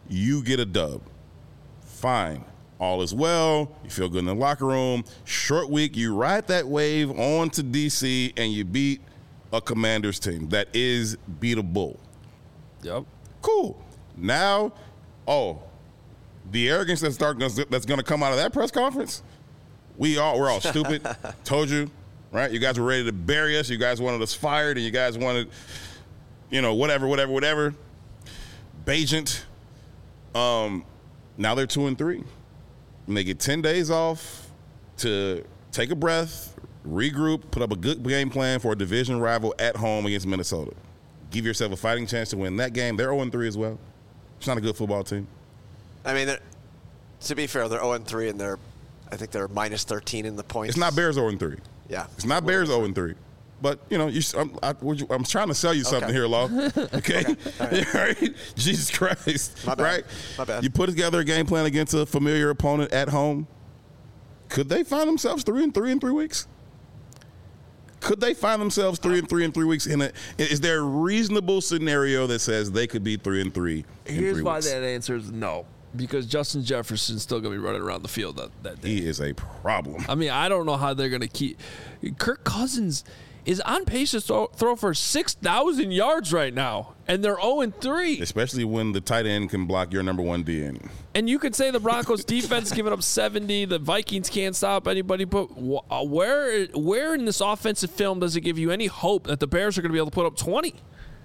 you get a dub. Fine. All is well. You feel good in the locker room. Short week, you ride that wave on to D C, and you beat a Commanders team that is beatable. Yep. Cool. Now, oh, the arrogance that's start that's going to come out of that press conference. We all we're all stupid. Told you, right? You guys were ready to bury us. You guys wanted us fired, and you guys wanted, you know, whatever, whatever, whatever. Bajent. Um, now they're two and three. And they get ten days off to take a breath, regroup, put up a good game plan for a division rival at home against Minnesota. Give yourself a fighting chance to win that game. They're oh and three as well. It's not a good football team. I mean, to be fair, they're oh and three, and they're, I think they're minus thirteen in the points. It's not Bears oh and three. Yeah. It's not Bears oh and three. But, you know, you, I'm, I, I'm trying to sell you something okay. here, Law. Okay? Okay. All right. All right? Jesus Christ. My bad. Right? My bad. You put together a game plan against a familiar opponent at home. Could they find themselves three and three in three weeks? Could they find themselves three and three in three weeks? In a, is there a reasonable scenario that says they could be three and three in Here's three why weeks? that answer is no. Because Justin Jefferson's still going to be running around the field that, that day. He is a problem. I mean, I don't know how they're going to keep. Kirk Cousins is on pace to throw, throw for six thousand yards right now, and they're oh and three. Especially when the tight end can block your number one D N. And you could say the Broncos defense is giving up seventy. The Vikings can't stop anybody. But wh- where, where in this offensive film does it give you any hope that the Bears are going to be able to put up twenty?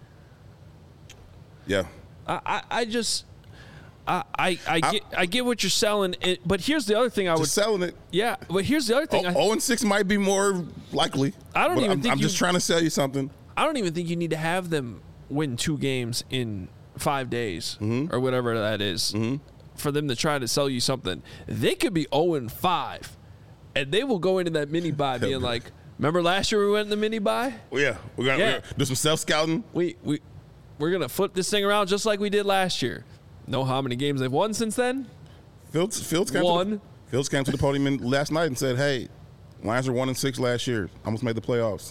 Yeah. I, I, I just. I, I, I get I get what you're selling, it, but here's the other thing I would Just selling it. yeah. But here's the other thing. I, oh and six might be more likely. I don't but even I'm, think I'm you- just trying to sell you something. I don't even think you need to have them win two games in five days Mm-hmm. or whatever that is for them to try to sell you something. They could be oh and five, and they will go into that mini bye being like, "Remember last year we went in the mini bye? Well, yeah, we got Yeah. to do some self scouting. We we we're gonna flip this thing around just like we did last year." Know how many games they've won since then? Fields, Fields came One. To the, Fields came to the podium in, last night and said, "Hey, Lions were one and six last year. Almost made the playoffs."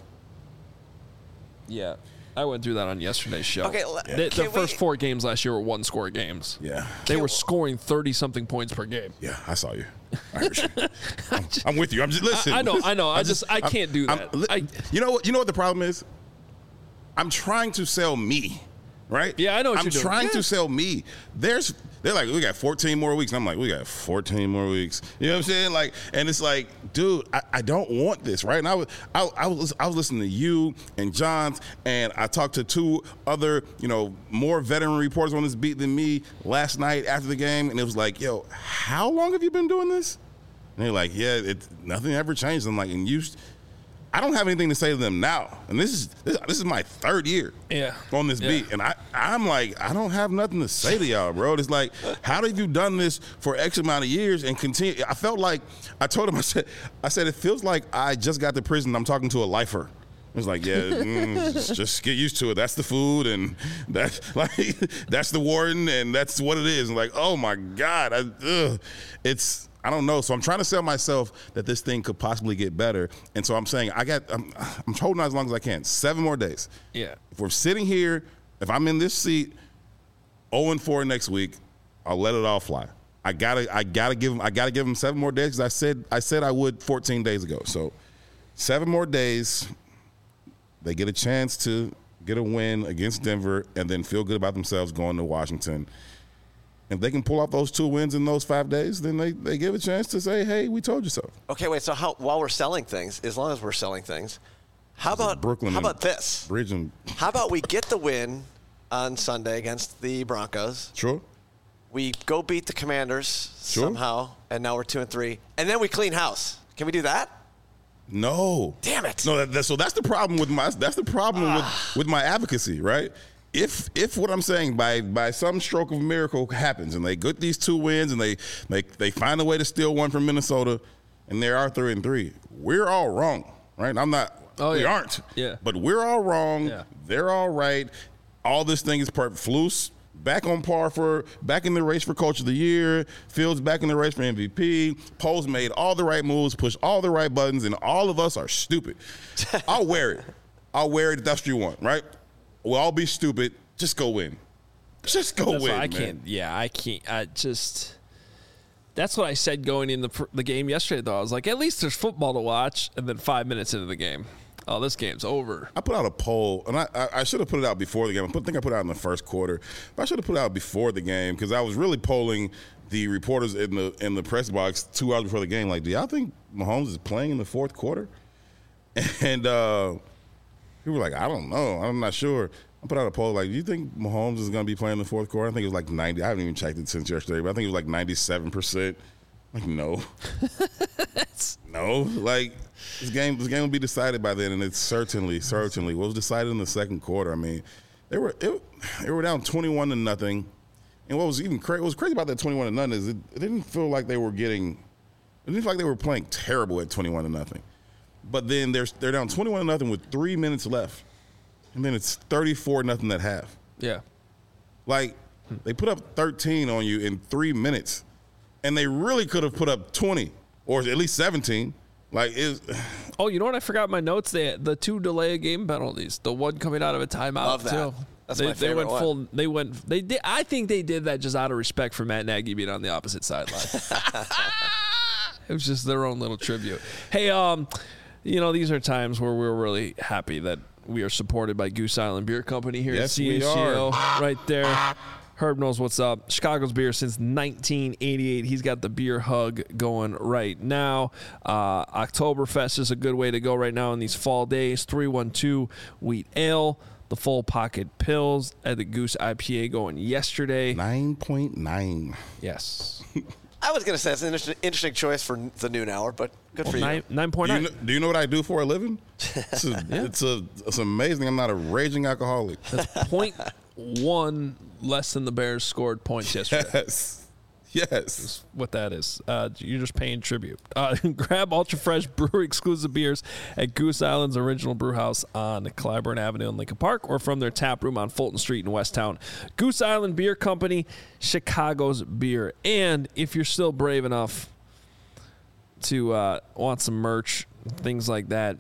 Yeah, I went through that on yesterday's show. Okay, l- the, the can first we- four games last year were one-score games. Yeah, They were scoring thirty-something points per game. yeah, I saw you. I heard you. I'm, I'm with you. I'm just listen. I- I know, listen. I know. I just- I I'm- can't do I'm- that. li- I- you know what? You know what the problem is? I'm trying to sell me, right? Yeah, I know what I'm you're doing. trying Yeah. to sell me. There's, they're like, we got fourteen more weeks. And I'm like, we got fourteen more weeks. You know what I'm saying? Like, and it's like, dude, I, I don't want this, right? And I was, I, I was, I was listening to you and Johns, and I talked to two other, you know, more veteran reporters on this beat than me last night after the game, and it was like, yo, how long have you been doing this? And they're like, yeah, it nothing ever changed. I'm like, and you. I don't have anything to say to them now, and this is this, this is my third year Yeah. on this Yeah. beat, and I I'm like I don't have nothing to say to y'all, bro. It's like, how have you done this for X amount of years and continue? I felt like I told him I said I said it feels like I just got to prison. I'm talking to a lifer. It was like, yeah, mm, just, just get used to it. That's the food, and that's like that's the warden, and that's what it is. And like, oh my God, I, ugh. it's. I don't know. So I'm trying to sell myself that this thing could possibly get better. And so I'm saying I got I'm, I'm holding out as long as I can. Seven more days. Yeah. If we're sitting here, if I'm in this seat, oh and four next week, I'll let it all fly. I gotta I gotta give them I gotta give them seven more days because I said I said I would fourteen days ago. So seven more days, they get a chance to get a win against Denver and then feel good about themselves going to Washington. If they can pull off those two wins in those five days, then they, they give a chance to say, hey, we told you so. Okay, wait. So how, while we're selling things, as long as we're selling things, how about Brooklyn How and about this? Bridge and How about we get the win on Sunday against the Broncos? sure. We go beat the Commanders Sure. somehow, and now we're two and three, and then we clean house. Can we do that? No. Damn it. No, that, that, so that's the problem with my that's the problem with, with my advocacy, right? If if what I'm saying by by some stroke of a miracle happens and they get these two wins and they they they find a way to steal one from Minnesota and they are three and three, we're all wrong, right? I'm not. Oh, we yeah. aren't. Yeah. But we're all wrong. Yeah. They're all right. All this thing is perfect. Flus back on par for back in the race for Coach of the Year. Fields back in the race for M V P. Poles made all the right moves, pushed all the right buttons, and all of us are stupid. I'll wear it. I'll wear it if that's what you want, right? We'll all be stupid. Just go win. Just go That's win, why I man. can't. Yeah, I can't. I just. That's what I said going in the pr- the game yesterday. Though I was like, at least there's football to watch. And then five minutes into the game, oh, this game's over. I put out a poll, and I, I, I should have put it out before the game. I put, think I put it out in the first quarter. But I should have put it out before the game because I was really polling the reporters in the in the press box two hours before the game. Like, do y'all think Mahomes is playing in the fourth quarter? And uh, people were like, I don't know. I'm not sure. I put out a poll like, do you think Mahomes is going to be playing in the fourth quarter? I think it was like ninety. I haven't even checked it since yesterday, but I think it was like ninety-seven percent. Like, no. no. Like, this game this game will be decided by then, and it's certainly, certainly. What was decided in the second quarter, I mean, they were it, they were down twenty-one to nothing. And what was even cra- what was crazy about that twenty-one to nothing is it, it didn't feel like they were getting – it didn't feel like they were playing terrible at twenty-one to nothing. But then they're, they're down twenty-one to nothing with three minutes left. And then it's thirty-four nothing at half. Yeah. Like, they put up thirteen on you in three minutes, and they really could have put up twenty or at least seventeen. Like, is Oh, you know what? I forgot my notes. They the two delay of game penalties. The one coming out of a timeout Love that. too. That's they, my favorite They went one. full. They went. They did. I think they did that just out of respect for Matt Nagy being on the opposite sideline. It was just their own little tribute. Hey, um, you know, these are times where we're really happy that we are supported by Goose Island Beer Company here Yes, at C H G we O. are. Right there. Herb knows what's up. Chicago's beer since nineteen eighty-eight. He's got the beer hug going right now. Uh, Oktoberfest is a good way to go right now in these fall days. three one two Wheat Ale. The full pocket pills at the Goose I P A going yesterday. nine point nine. Yes. I was going to say it's an interesting, interesting choice for the noon hour, but good for Nine, you. nine point Do you, nine. know, do you know what I do for a living? It's, a, it's, a, it's amazing. I'm not a raging alcoholic. Point one less than the Bears scored points yesterday. Yes. Yes. What that is. Uh, you're just paying tribute. Uh, grab Ultra Fresh Brewery exclusive beers at Goose Island's original brew house on Clybourne Avenue in Lincoln Park or from their tap room on Fulton Street in Westtown. Goose Island Beer Company, Chicago's beer. And if you're still brave enough to uh, want some merch, things like that,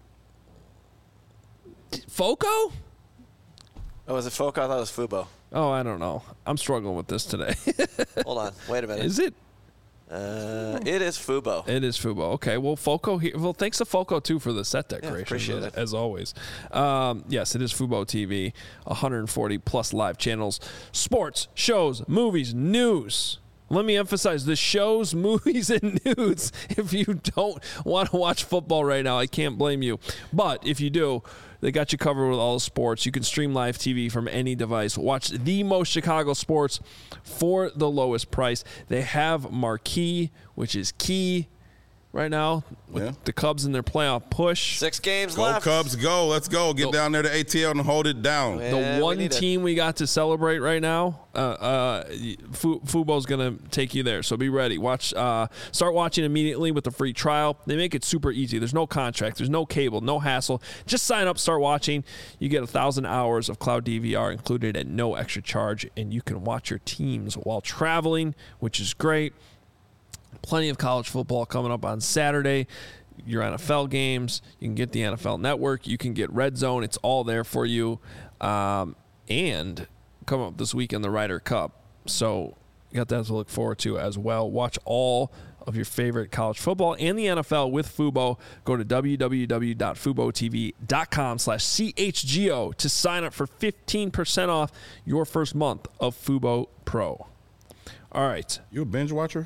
Foco? Oh, was it Foco? I thought it was Fubo. Oh, I don't know. I'm struggling with this today. Hold on. Wait a minute. Is it? Uh, it is Fubo. It is Fubo. Okay. Well, Foco here. Well, thanks to Foco too for the set decorations. appreciate as, it. as always. Um, yes, it is Fubo T V. one hundred forty plus live channels, sports, shows, movies, news. Let me emphasize the shows, movies, and news. If you don't want to watch football right now, I can't blame you. But if you do, they got you covered with all the sports. You can stream live T V from any device. Watch the most Chicago sports for the lowest price. They have Marquee, which is key right now with Yeah. the Cubs in their playoff push. Six games Go left. Cubs, go. Let's go. Get Go. down there to A T L and hold it down. Yeah. The we one need it. team we got to celebrate right now, uh, uh, Fu- Fubo's gonna take you there. So be ready. Watch. Uh, start watching immediately with the free trial. They make it super easy. There's no contract. There's no cable. No hassle. Just sign up. Start watching. You get a thousand hours of cloud D V R included at no extra charge, and you can watch your teams while traveling, which is great. Plenty of college football coming up on Saturday. Your N F L games. You can get the N F L Network. You can get Red Zone. It's all there for you. Um, and come up this week in the Ryder Cup. So you got that to look forward to as well. Watch all of your favorite college football and the N F L with Fubo. Go to www.fubotv.com slash CHGO to sign up for fifteen percent off your first month of Fubo Pro. All right. You a binge watcher?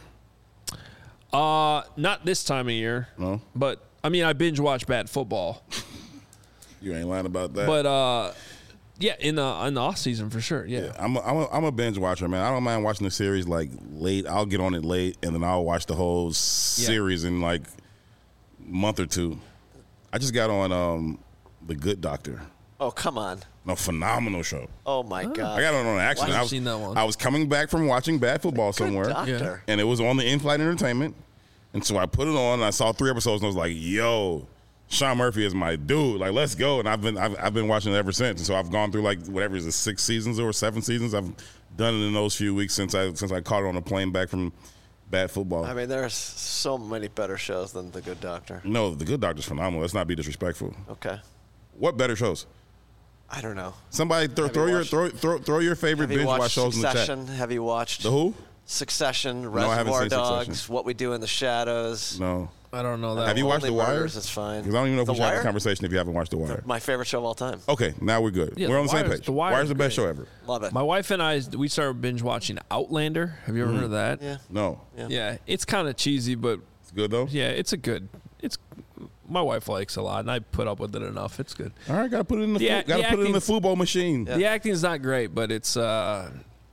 Uh, not this time of year. No. But I mean, I binge watch bad football. You ain't lying about that. But uh, yeah, in the in the off season for sure. Yeah. Yeah, I'm a, I'm, a, I'm a binge watcher, man. I don't mind watching the series like late. I'll get on it late, and then I'll watch the whole series in like a month or two. I just got on um, The Good Doctor. Oh, come on. No, phenomenal show. Oh, my God. I got on on accident. I've I was, seen that one. I was coming back from watching bad football Good somewhere, doctor. and it was on the in-flight entertainment. And so I put it on, and I saw three episodes, and I was like, "Yo, Sean Murphy is my dude. Like, let's go." And I've been I've, I've been watching it ever since. And so I've gone through like whatever is it, six seasons or seven seasons. I've done it in those few weeks since I since I caught it on a plane back from bad football. I mean, there's so many better shows than The Good Doctor. No, The Good Doctor's phenomenal. Let's not be disrespectful. Okay. What better shows? I don't know. Somebody throw, Have throw you your watched- throw, throw throw your favorite Have you binge watch watched shows in the Succession? chat. Have you watched The who? Succession, No, I haven't Reservoir seen Dogs, Succession. What We Do in the Shadows? No. I don't know that. Have you one. watched Only The Wire? Murders, it's fine. Because I don't even know if The we should have Wire? a conversation if you haven't watched The Wire. My favorite show of all time. Okay, now we're good. Yeah, we're The on the same Wire's- page. The Wire's Wire's the best great. show ever. Love it. My wife and I, we started binge watching Outlander. Have you ever heard of that? Yeah. No. Yeah. Yeah, it's kind of cheesy, but It's good, though? yeah, it's a good. It's my wife likes it a lot, and I put up with it enough. It's good. All right, got to put it in the, The fu- act- gotta the put it in the acting's- football machine. Yeah. The acting's not great, but it's. uh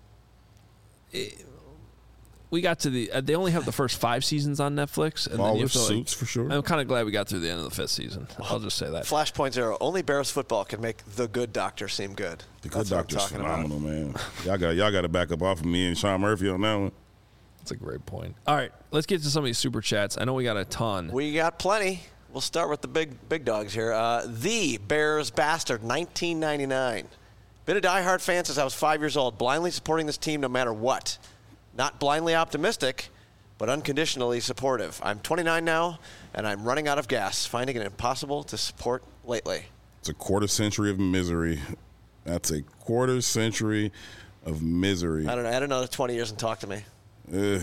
it- We got to the. Uh, they only have the first five seasons on Netflix, and then All you the have to, like, suits, for sure. I'm kind of glad we got through the end of the fifth season. I'll just say that. Flashpoint Zero. Only Bears football can make The Good Doctor seem good. The Good That's what I'm Doctor's talking phenomenal, man. Y'all got y'all got to back up off of me and Sean Murphy on that one. That's a great point. All right, let's get to some of these super chats. I know we got a ton. We got plenty. We'll start with the big big dogs here. Uh, the Bears Bastard, nineteen ninety-nine. Been a diehard fan since I was five years old, blindly supporting this team no matter what. Not blindly optimistic, but unconditionally supportive. I'm twenty-nine now, and I'm running out of gas, finding it impossible to support lately. It's a quarter century of misery. That's a quarter century of misery. I don't know. Add another twenty years and talk to me. Ugh.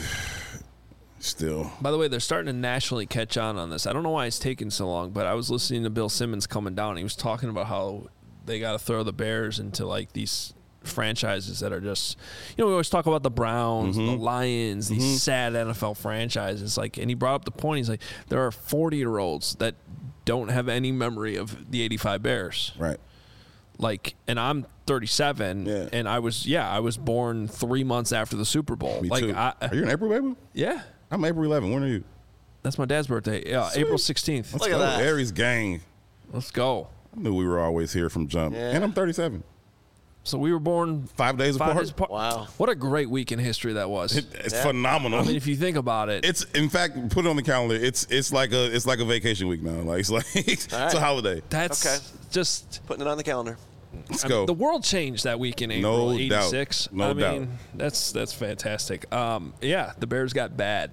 Still. By the way, they're starting to nationally catch on on this. I don't know why it's taking so long, but I was listening to Bill Simmons coming down. He was talking about how they got to throw the Bears into like these franchises that are just, you know, we always talk about the Browns, Mm-hmm. the Lions, these Mm-hmm. sad N F L franchises. Like, and he brought up the point. He's like, there are forty-year-olds that don't have any memory of the eighty-five Bears. Right. Like, and I'm thirty-seven, Yeah. and I was, yeah, I was born three months after the Super Bowl. Me like, too. I, Are you in April, baby? yeah, I'm April eleventh. When are you? that's my dad's birthday. Yeah, April sixteenth. Let's Look at go. that. Aries gang. Let's go. I knew we were always here from jump. Yeah. And I'm thirty-seven. So we were born Five days five apart. days apart. Wow. What a great week in history that was. It- it's Yeah. phenomenal. I mean, if you think about it, It's in fact put it on the calendar. It's it's like a it's like a vacation week now. Like it's like it's right. a holiday. that's Okay. just Putting it on the calendar. Let's I mean, go. the world changed that week in April No doubt. eighty-six. No I doubt. mean, that's that's fantastic. Um, yeah, the Bears got bad.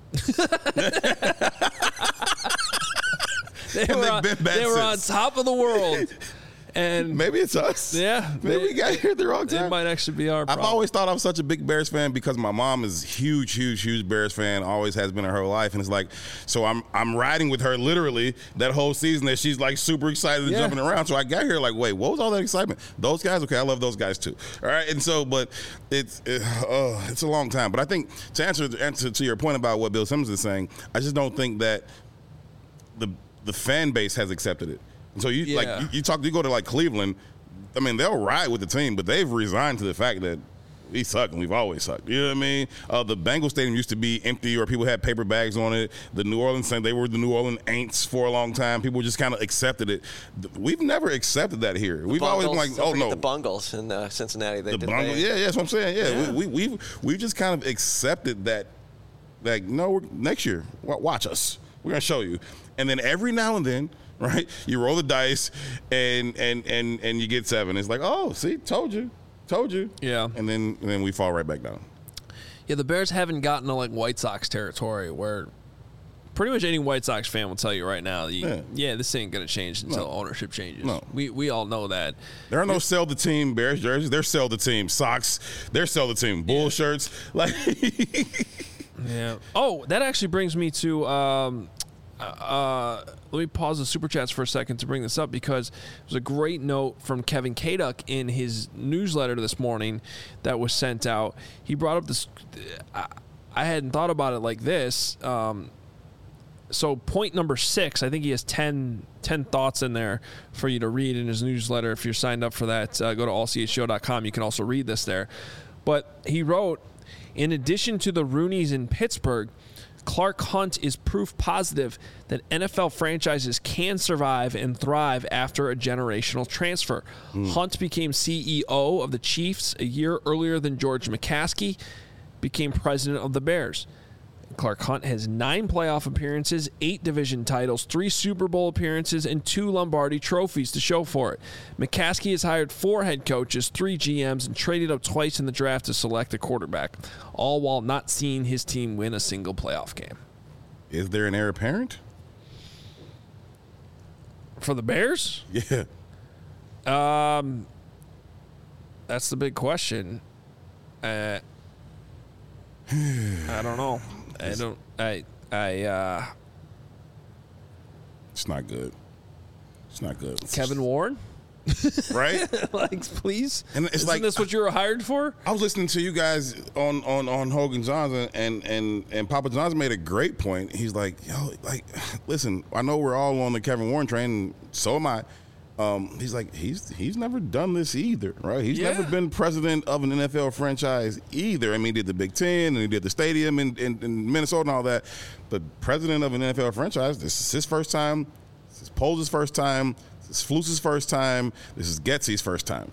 they And were, they've on, been bad they were on since. top of the world. And Maybe it's us. yeah, Maybe they- we got here at the wrong it time. might actually be our I've problem. always thought I was such a big Bears fan because my mom is huge, huge, huge Bears fan. Always has been in her life, and it's like, so I'm I'm riding with her literally that whole season that she's like super excited and Yeah. jumping around. So I got here like, wait, what was all that excitement? Those guys, okay, I love those guys too. All right, and so, but it's it, uh, it's a long time. But I think to answer answer to your point about what Bill Simmons is saying, I just don't think that the the fan base has accepted it. And so you Yeah. like you, you talk, you go to like Cleveland. I mean, they'll ride with the team, but they've resigned to the fact that we suck and we've always sucked. You know what I mean? Uh, the Bengals stadium used to be empty or people had paper bags on it. The New Orleans thing, they were the New Orleans Aints for a long time. People just kind of accepted it. Th- We've never accepted that here. We've always been Bungles. like, Don't oh forget no. the Bungles in uh, Cincinnati. They The did Bungles, they- yeah, yeah, that's what I'm saying. Yeah, Yeah. We, we, we've we've just kind of accepted that, like, no, we're, next year, wa- watch us. We're gonna show you. And then every now and then, right, you roll the dice, and and and and you get seven. It's like, oh, see, told you, told you. Yeah. And then and then we fall right back down. Yeah, the Bears haven't gotten to like White Sox territory where pretty much any White Sox fan will tell you right now, you, yeah. Yeah. this ain't gonna change until No. ownership changes. No. We we all know that. There are no sell the team Bears jerseys. They're sell the team socks. They're sell the team bull shirts. Like, Yeah. Oh, that actually brings me to. Um, uh, let me pause the super chats for a second to bring this up because there's a great note from Kevin Kaduk in his newsletter this morning that was sent out. He brought up this. I, I hadn't thought about it like this. Um, so point number six, I think he has ten, ten thoughts in there for you to read in his newsletter. If you're signed up for that, uh, go to all c h show dot com. You can also read this there. But he wrote, in addition to the Rooneys in Pittsburgh, Clark Hunt is proof positive that N F L franchises can survive and thrive after a generational transfer. Mm. Hunt became C E O of the Chiefs a year earlier than George McCaskey became president of the Bears. Clark Hunt has nine playoff appearances, eight division titles, three Super Bowl appearances, and two Lombardi trophies to show for it. McCaskey has hired four head coaches, three G Ms, and traded up twice in the draft to select a quarterback, all while not seeing his team win a single playoff game. is there an heir apparent? For the Bears? Yeah. Um, that's the big question. Uh, I don't know. I don't. I. I. Uh, It's not good. It's not good. It's Kevin Warren, just, right? like, please. And it's Isn't like this what you were hired for? I was listening to you guys on on on Hogan Johnson, and and and Papa Johnson made a great point. He's like, yo, like, listen, I know we're all on the Kevin Warren train, and so am I. Um, he's like, he's he's never done this either, right? He's Yeah. never been president of an N F L franchise either. I mean, he did the Big Ten, and he did the stadium in, in, in Minnesota and all that. But president of an N F L franchise, this is his first time. This is Poles' first time. This is Fluce's first time. This is Getsy's first time.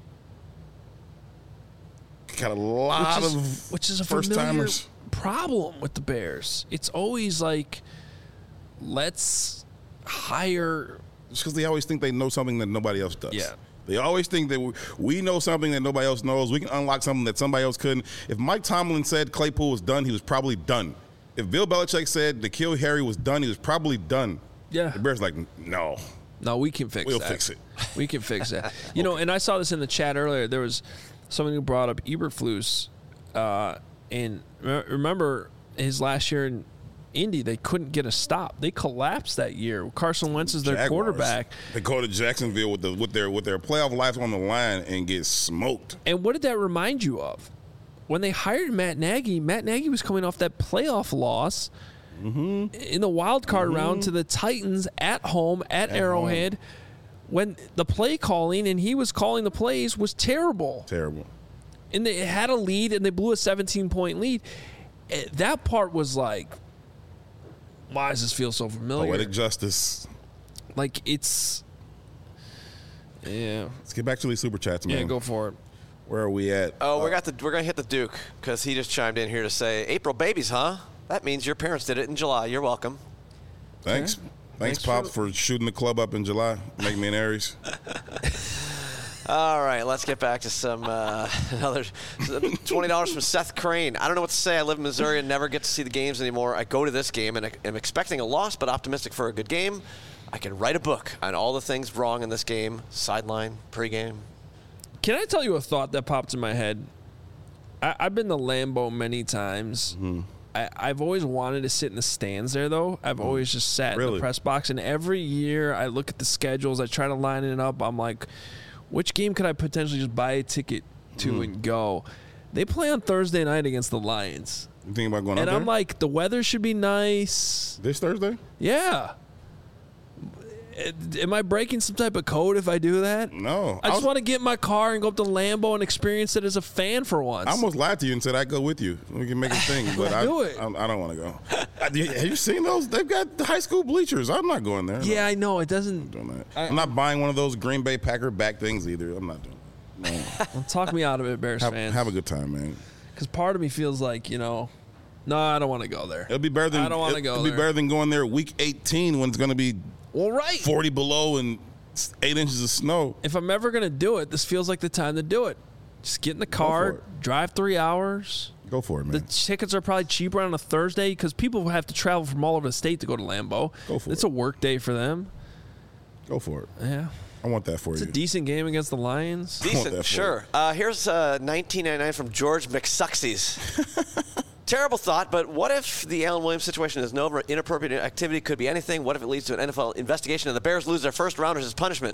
Got a lot which is, of which is a first familiar timers. problem with the Bears. It's always like, let's hire. Just because they always think they know something that nobody else does. Yeah. They always think that we, we know something that nobody else knows. We can unlock something that somebody else couldn't. If Mike Tomlin said Claypool was done, he was probably done. If Bill Belichick said N'Keal Harry was done, he was probably done. Yeah. The Bears are like, no. No, we can fix We'll that. fix it. We can fix that. You know, and I saw this in the chat earlier. There was someone who brought up Eberflus, uh, and re- remember his last year in Indy, they couldn't get a stop. They collapsed that year. Carson Wentz is their Jaguars, quarterback. They go to Jacksonville with the with their with their playoff lives on the line and get smoked. And what did that remind you of? When they hired Matt Nagy, Matt Nagy was coming off that playoff loss Mm-hmm. in the wild card Mm-hmm. round to the Titans at home at, At Arrowhead. home. When the play calling and he was calling the plays was terrible. Terrible. And they had a lead and they blew a seventeen-point lead. Eh, That part was like, why does this feel so familiar? Poetic justice. Like, it's, yeah. Let's get back to these super chats, man. Yeah, go for it. Where are we at? Oh, we Uh, got the we're gonna hit the Duke because he just chimed in here to say April babies, huh? That means your parents did it in July. You're welcome. Thanks. Okay. Thanks, Thanks Pops, for- for shooting the club up in July, making me an Aries. All right, let's get back to some uh, another twenty dollars from Seth Crane. I don't know what to say. I live in Missouri and never get to see the games anymore. I go to this game and am expecting a loss, but optimistic for a good game. I can write a book on all the things wrong in this game: sideline, pregame. Can I tell you a thought that popped in my head? I, I've been to Lambeau many times. Mm-hmm. I, I've always wanted to sit in the stands there, though. I've always just sat in Really? the press box, and every year I look at the schedules. I try to line it up. I'm like, which game could I potentially just buy a ticket to Mm-hmm. and go? They play on Thursday night against the Lions, You thinking about going and out I'm there like, the weather should be nice. this Thursday? Yeah. Am I breaking some type of code if I do that? No. I I just was- want to get in my car and go up to Lambeau and experience it as a fan for once. I almost lied to you and said I'd go with you. We can make a thing, but I, Do it. I, I don't want to go. I- Have you seen those? They've got the high school bleachers. I'm not going there. yeah, I know. It doesn't. I'm not doing that. I- I'm not buying one of those Green Bay Packer back things either. I'm not doing that. No. Well, talk me out of it, Bears have, fans. have a good time, man. Because part of me feels like, you know, no, I don't want to go there. It'll be better than I don't wanna it- go It'll be there. better than going there week eighteen when it's going to be Well, right. forty below and eight inches of snow. If I'm ever going to do it, this feels like the time to do it. Just get in the car, it. drive three hours. Go for it, The man. tickets are probably cheaper on a Thursday because people have to travel from all over the state to go to Lambeau. Go for it's it. a work day for them. Go for it. Yeah. I want that for It's you. a decent game against the Lions. want that Decent, for sure. Uh, here's uh, nineteen ninety-nine from George McSuxies. Terrible thought, but what if the Alan Williams situation is no inappropriate activity? Could be anything. What if it leads to an N F L investigation and the Bears lose their first rounders as punishment?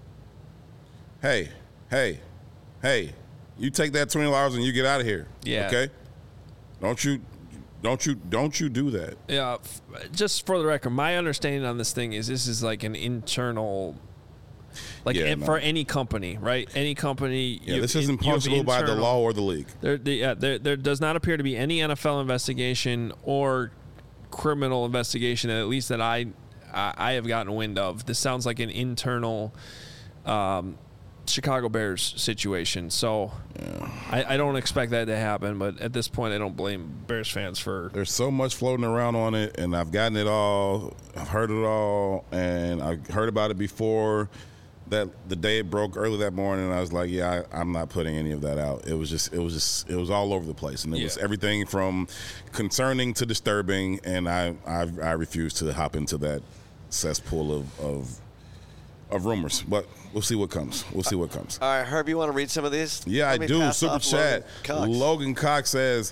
Hey, hey, hey! You take that twenty dollars and you get out of here. Yeah. Okay. Don't you, don't you, don't you do that? Yeah, f- just for the record, my understanding on this thing is this is like an internal, like Yeah, eh, no. for any company, right? Any company. Yeah, you- this you- isn't you have punishable by the internal- law or the league. There, the, yeah, there, there does not appear to be any N F L investigation or criminal investigation, at least that I, I, I have gotten wind of. This sounds like an internal um, Chicago Bears situation. So Yeah. I, I don't expect that to happen. But at this point, I don't blame Bears fans for. There's so much floating around on it, and I've gotten it all. I've heard it all, and I heard about it before. That the day it broke early that morning, I was like, "Yeah, I, I'm not putting any of that out." It was just, it was just, it was all over the place, and it was Yeah. everything from concerning to disturbing, and I, I, I refuse to hop into that cesspool of, of of rumors, but we'll see what comes. We'll see what comes. All right, Herb, you want to read some of these? Yeah, Let I me do. pass Super off chat. Logan Cox. Logan Cox says,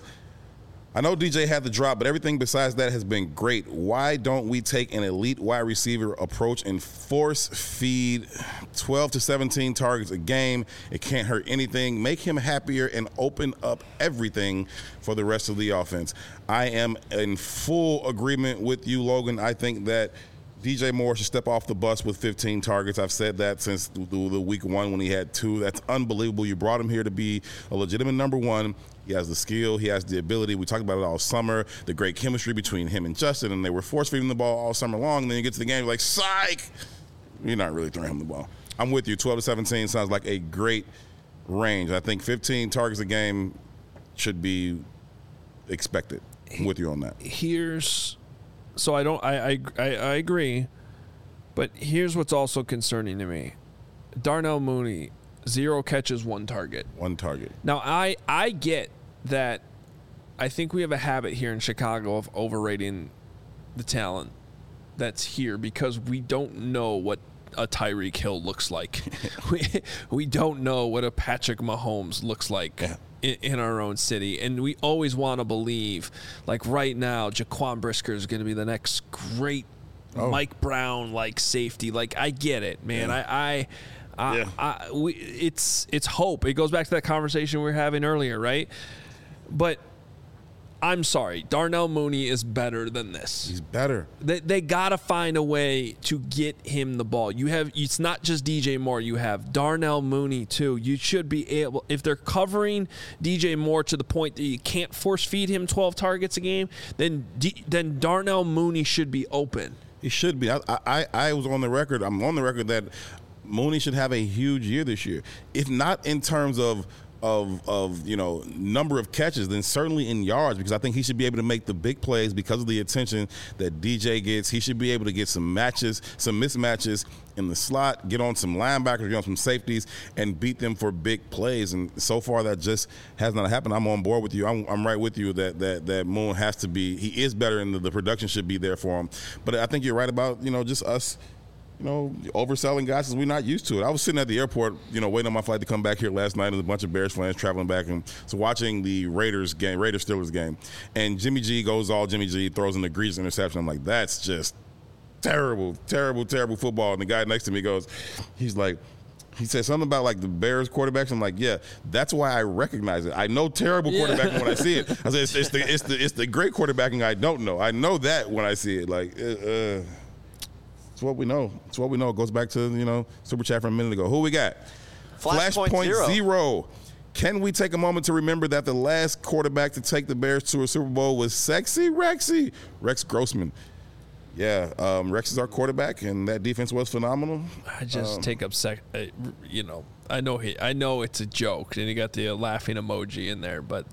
I know D J had the drop, but everything besides that has been great. Why don't we take an elite wide receiver approach and force feed twelve to seventeen targets a game? It can't hurt anything. Make him happier and open up everything for the rest of the offense. I am in full agreement with you, Logan. I think that D J Moore should step off the bus with fifteen targets. I've said that since the, the week one when he had two. That's unbelievable. You brought him here to be a legitimate number one. He has the skill. He has the ability. We talked about it all summer, the great chemistry between him and Justin, and they were force-feeding the ball all summer long. And then you get to the game, you're like, psych! You're not really throwing him the ball. I'm with you. twelve to seventeen sounds like a great range. I think fifteen targets a game should be expected. I'm with you on that. Here's... So I don't. I, I I I agree, but here's what's also concerning to me: Darnell Mooney, zero catches, one target. One target. Now I I get that. I think we have a habit here in Chicago of overrating the talent that's here because we don't know what a Tyreek Hill looks like. we we don't know what a Patrick Mahomes looks like. Yeah. In our own city, and we always want to believe, like right now, Jaquan Brisker is going to be the next great oh. Mike Brown like safety. Like I get it, man. Yeah. I, I, I, yeah. I, we, it's it's hope. It goes back to that conversation we were having earlier, right? But I'm sorry, Darnell Mooney is better than this. He's better. They they gotta find a way to get him the ball. You have it's not just D J Moore. You have Darnell Mooney too. You should be able, if they're covering D J Moore to the point that you can't force feed him twelve targets a game, then D, then Darnell Mooney should be open. He should be. I, I I was on the record. I'm on the record that Mooney should have a huge year this year, if not in terms of. Of, of you know number of catches, then certainly in yards, because I think he should be able to make the big plays because of the attention that D J gets. He should be able to get some matches, some mismatches in the slot, get on some linebackers, get on some safeties, and beat them for big plays. And so far, that just has not happened. I'm on board with you. I'm, I'm right with you that that that Moon has to be. He is better, and the, the production should be there for him. But I think you're right about you know just us. You know, overselling guys because we're not used to it. I was sitting at the airport, you know, waiting on my flight to come back here last night, and a bunch of Bears fans traveling back, and so watching the Raiders game, Raiders Steelers game, and Jimmy G goes all Jimmy G, throws an egregious interception. I'm like, that's just terrible, terrible, terrible football. And the guy next to me goes, he's like, he said something about like the Bears quarterbacks. I'm like, yeah, that's why I recognize it. I know terrible yeah. quarterbacking when I see it. I said, it's, it's the it's the it's the great quarterbacking I don't know. I know that when I see it. Like. Uh, It's what we know. It's what we know. It goes back to, you know, Super Chat from a minute ago. Who we got? Flashpoint Flashpoint zero. zero. Can we take a moment to remember that the last quarterback to take the Bears to a Super Bowl was sexy Rexy? Rex Grossman. Yeah, um, Rex is our quarterback, and that defense was phenomenal. I just um, take up sec. Uh, you know, I know he. I know it's a joke, and he got the uh, laughing emoji in there, but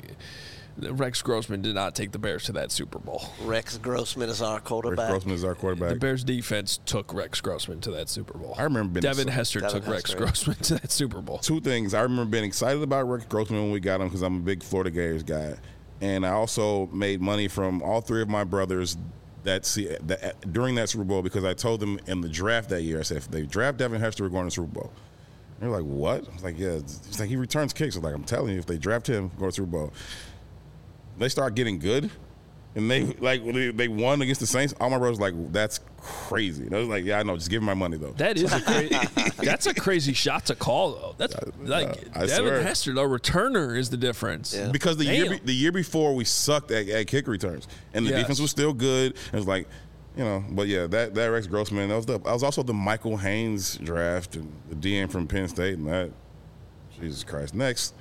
Rex Grossman did not take the Bears to that Super Bowl. Rex Grossman is our quarterback. Rex Grossman is our quarterback. The Bears defense took Rex Grossman to that Super Bowl. I remember being Devin excited. Hester Devin took Hester. Rex Grossman to that Super Bowl. Two things. I remember being excited about Rex Grossman when we got him because I'm a big Florida Gators guy. And I also made money from all three of my brothers that, see, that during that Super Bowl because I told them in the draft that year, I said, if they draft Devin Hester, we're going to the Super Bowl. And they're like, what? I was like, yeah. It's like he returns kicks. I was like, I'm telling you, if they draft him, we're going to the Super Bowl. They start getting good, and they like they, they won against the Saints. All my brothers were like, that's crazy. And I was like, yeah, I know. Just give me my money though. That is a crazy. That's a crazy shot to call though. That's uh, like uh, Devin swear. Hester, the returner, is the difference. Yeah. Because the Damn. year the year before we sucked at, at kick returns, and the yes. defense was still good. It was like, you know, but yeah, that that Rex Grossman. That was the. I was also the Michael Haynes draft and the D M from Penn State, and that. Jesus Christ. Next.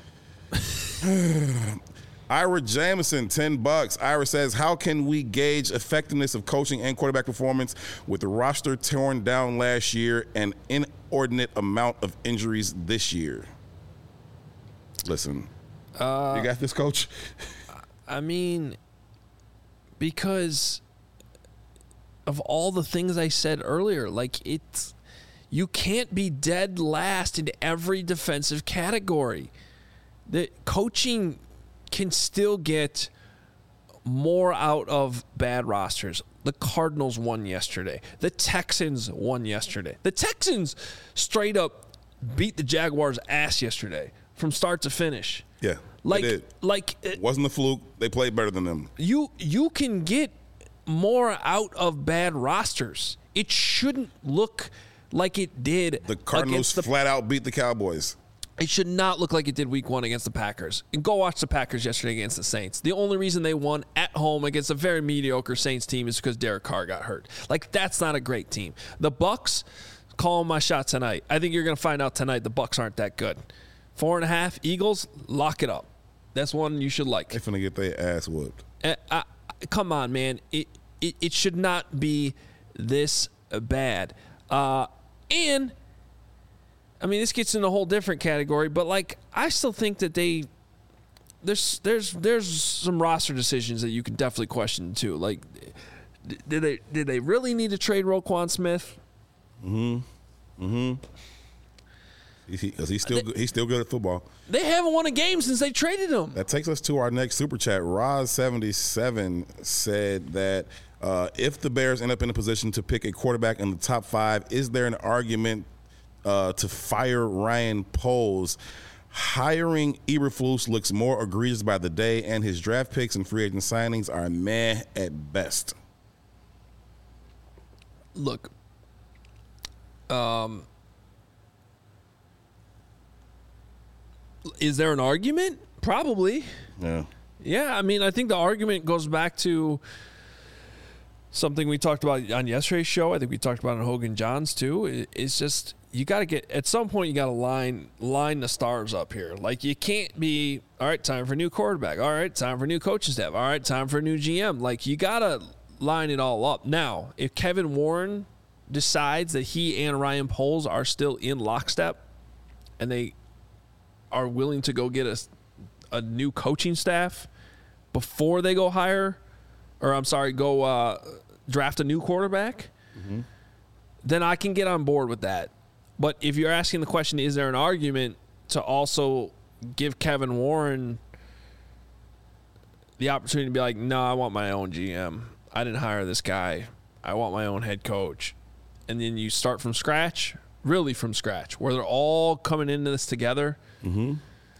Ira Jamison, ten bucks. Ira says, how can we gauge effectiveness of coaching and quarterback performance with the roster torn down last year and inordinate amount of injuries this year? Listen, uh, you got this, Coach? I mean, because of all the things I said earlier, like it's, you can't be dead last in every defensive category. The coaching can still get more out of bad rosters. The Cardinals won yesterday. The Texans won yesterday. The Texans straight up beat the Jaguars' ass yesterday from start to finish. Yeah, like they did. like it wasn't a fluke. They played better than them. You you can get more out of bad rosters. It shouldn't look like it did. The Cardinals the, flat out beat the Cowboys. It should not look like it did week one against the Packers. And go watch the Packers yesterday against the Saints. The only reason they won at home against a very mediocre Saints team is because Derek Carr got hurt. Like, that's not a great team. The Bucs, call my shot tonight. I think you're going to find out tonight the Bucs aren't that good. Four and a half, Eagles, lock it up. That's one you should like. They're finna get their ass whooped. Uh, I, come on, man. It, it, it should not be this bad. Uh, and... I mean, this gets in a whole different category, but like I still think that they there's there's there's some roster decisions that you can definitely question too. Like, did they did they really need to trade Roquan Smith? Mm-hmm. Mm-hmm. Because he, he's still they, he's still good at football. They haven't won a game since they traded him. That takes us to our next super chat. Roz seventy-seven said that uh, if the Bears end up in a position to pick a quarterback in the top five, is there an argument Uh, to fire Ryan Poles? Hiring Eberflus looks more egregious by the day, and his draft picks and free agent signings are meh at best. Look, um, is there an argument? Probably. Yeah. Yeah, I mean, I think the argument goes back to something we talked about on yesterday's show. I think we talked about on Hogan Johns too. It's just, you got to get, at some point you got to line line the stars up here. Like, you can't be, all right, time for a new quarterback. All right, time for a new coaching staff. All right, time for a new G M. Like, you got to line it all up. Now, if Kevin Warren decides that he and Ryan Poles are still in lockstep and they are willing to go get a, a new coaching staff before they go hire, or I'm sorry, go uh, draft a new quarterback, mm-hmm. then I can get on board with that. But if you're asking the question, is there an argument to also give Kevin Warren the opportunity to be like, no, I want my own G M. I didn't hire this guy. I want my own head coach. And then you start from scratch, really from scratch, where they're all coming into this together. Mm-hmm.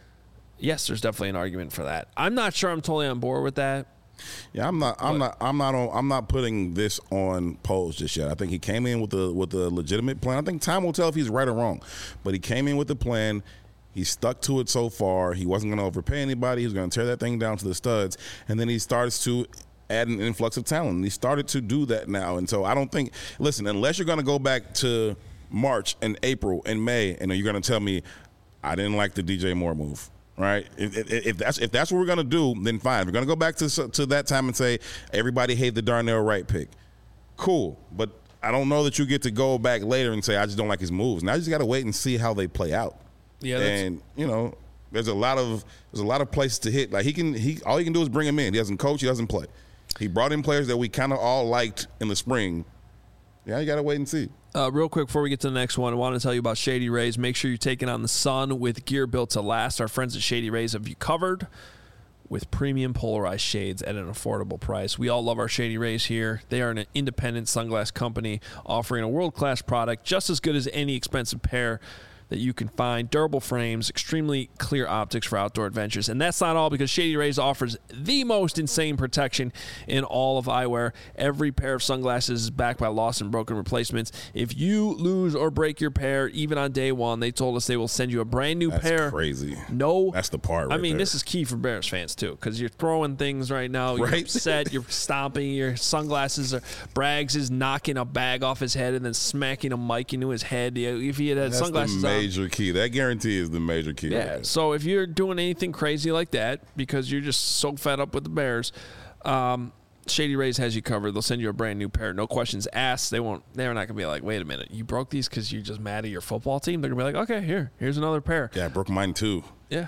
Yes, there's definitely an argument for that. I'm not sure I'm totally on board with that. Yeah, I'm not. I'm but, not. I'm not on. I'm not putting this on Poles just yet. I think he came in with a with a legitimate plan. I think time will tell if he's right or wrong. But he came in with a plan. He stuck to it so far. He wasn't going to overpay anybody. He was going to tear that thing down to the studs. And then he starts to add an influx of talent. He started to do that now. And so I don't think. Listen, unless you're going to go back to March and April and May, and you're going to tell me I didn't like the D J Moore move. Right. If, if, if that's if that's what we're gonna do, then fine. If we're gonna go back to to that time and say everybody hated the Darnell Wright pick, cool. But I don't know that you get to go back later and say I just don't like his moves. Now you just got to wait and see how they play out. Yeah. And you know, there's a lot of there's a lot of places to hit. Like he can he all he can do is bring him in. He doesn't coach. He doesn't play. He brought in players that we kind of all liked in the spring. Yeah, you got to wait and see. Uh, real quick before we get to the next one, I want to tell you about Shady Rays. Make sure you're taking on the sun with gear built to last. Our friends at Shady Rays have you covered with premium polarized shades at an affordable price. We all love our Shady Rays here. They are an independent sunglass company offering a world-class product just as good as any expensive pair that you can find. Durable frames, extremely clear optics for outdoor adventures. And that's not all, because Shady Rays offers the most insane protection in all of eyewear. Every pair of sunglasses is backed by lost and broken replacements. If you lose or break your pair, even on day one, they told us they will send you a brand new that's pair. That's crazy. No. That's the part right I mean, there. This is key for Bears fans, too, because you're throwing things right now. You're right? upset. You're stomping. Your sunglasses are. Braggs is knocking a bag off his head and then smacking a mic into his head. If he had had that's sunglasses the on. Major key. That guarantee is the major key. Yeah. Right? So if you're doing anything crazy like that because you're just so fed up with the Bears, um, Shady Rays has you covered. They'll send you a brand new pair, no questions asked. They won't. They're not gonna be like, wait a minute, you broke these because you're just mad at your football team. They're gonna be like, okay, here, here's another pair. Yeah, I broke mine too. Yeah.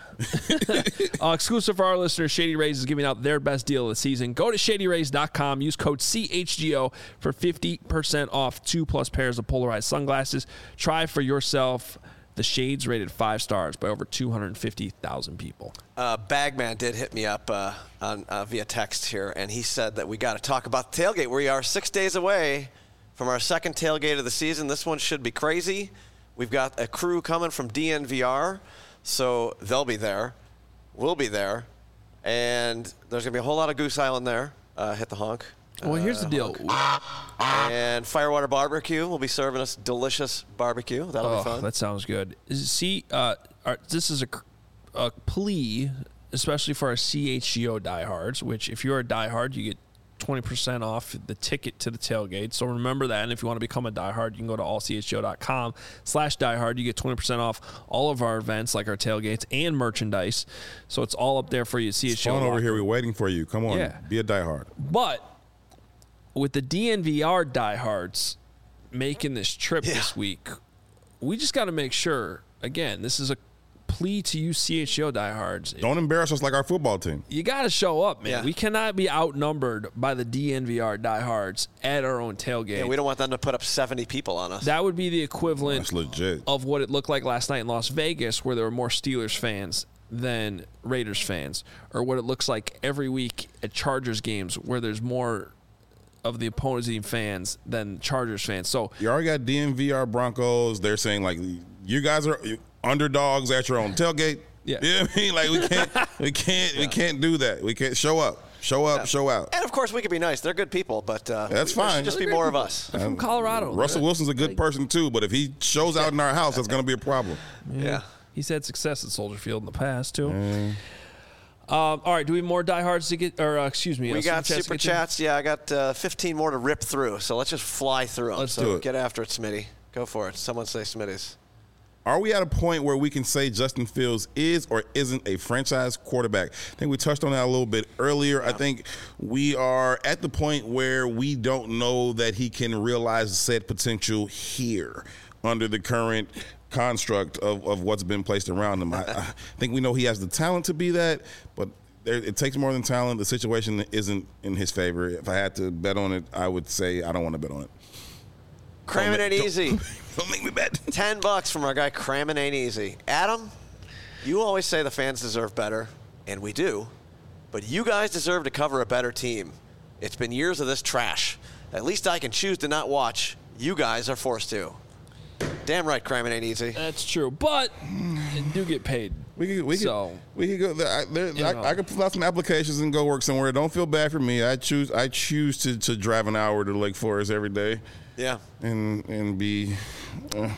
uh, exclusive for our listeners, Shady Rays is giving out their best deal of the season. Go to shady rays dot com. Use code C H G O for fifty percent off two plus pairs of polarized sunglasses. Try for yourself The Shades rated five stars by over two hundred fifty thousand people. Uh, Bagman did hit me up uh, on uh, via text here, and he said that we got to talk about the tailgate. We are six days away from our second tailgate of the season. This one should be crazy. We've got a crew coming from D N V R, so they'll be there. We'll be there. And there's going to be a whole lot of Goose Island there. Uh, hit the honk. Well, here's the deal. And Firewater Barbecue will be serving us delicious barbecue. That'll Oh, be fun. that sounds good. See, uh, our, this is a, a plea, especially for our C H G O diehards, which if you're a diehard, you get twenty percent off the ticket to the tailgate. So remember that. And if you want to become a diehard, you can go to all c h g o dot com slash diehard. You get twenty percent off all of our events, like our tailgates and merchandise. So it's all up there for you at C H G O. It's fun over here. We're waiting for you. Come on. Yeah. Be a diehard. But with the D N V R diehards making this trip Yeah. this week, we just got to make sure, again, this is a plea to you C H G O diehards. Don't embarrass us like our football team. You got to show up, man. Yeah. We cannot be outnumbered by the D N V R diehards at our own tailgate. Yeah, we don't want them to put up seventy people on us. That would be the equivalent That's legit. of what it looked like last night in Las Vegas, where there were more Steelers fans than Raiders fans, or what it looks like every week at Chargers games, where there's more of the opposing fans than Chargers fans. So You already got D N V R Broncos. They're saying, like, you guys are underdogs at your own tailgate. Yeah. You know what I mean? Like, we can't, we can't, we can't do that. We can't show up. Show up, show out. And, of course, we could be nice. They're good people, but uh, That's there should fine. just be They're more great of people. us. They're from Colorado. Russell Wilson's a good person, too, but if he shows out in our house, that's going to be a problem. Yeah. He's had success at Soldier Field in the past, too. Um, all right, do we have more diehards to get, or uh, excuse me. We uh, got to super get to? chats. Yeah, I got uh, fifteen more to rip through, so let's just fly through them. Let's so do it. Get after it, Smitty. Go for it. Someone say Smitty's. Are we at a point where we can say Justin Fields is or isn't a franchise quarterback? I think we touched on that a little bit earlier. I think we are at the point where we don't know that he can realize said potential here under the current construct of, of what's been placed around him. I, I think we know he has the talent to be that, but there, it takes more than talent. The situation isn't in his favor. If I had to bet on it, I would say I don't want to bet on it. Cramming Don't it ma- easy. Don't make me bet. Ten bucks from our guy Cramming Ain't Easy. Adam, you always say the fans deserve better, and we do, but you guys deserve to cover a better team. It's been years of this trash. At least I can choose to not watch. You guys are forced to. Damn right, Cramming Ain't Easy. That's true, but you do get paid. We could, we could, So, we could go. There, I, there, you know. I, I could fill out some applications and go work somewhere. Don't feel bad for me. I choose. I choose to, to drive an hour to Lake Forest every day Yeah. and and be. Uh,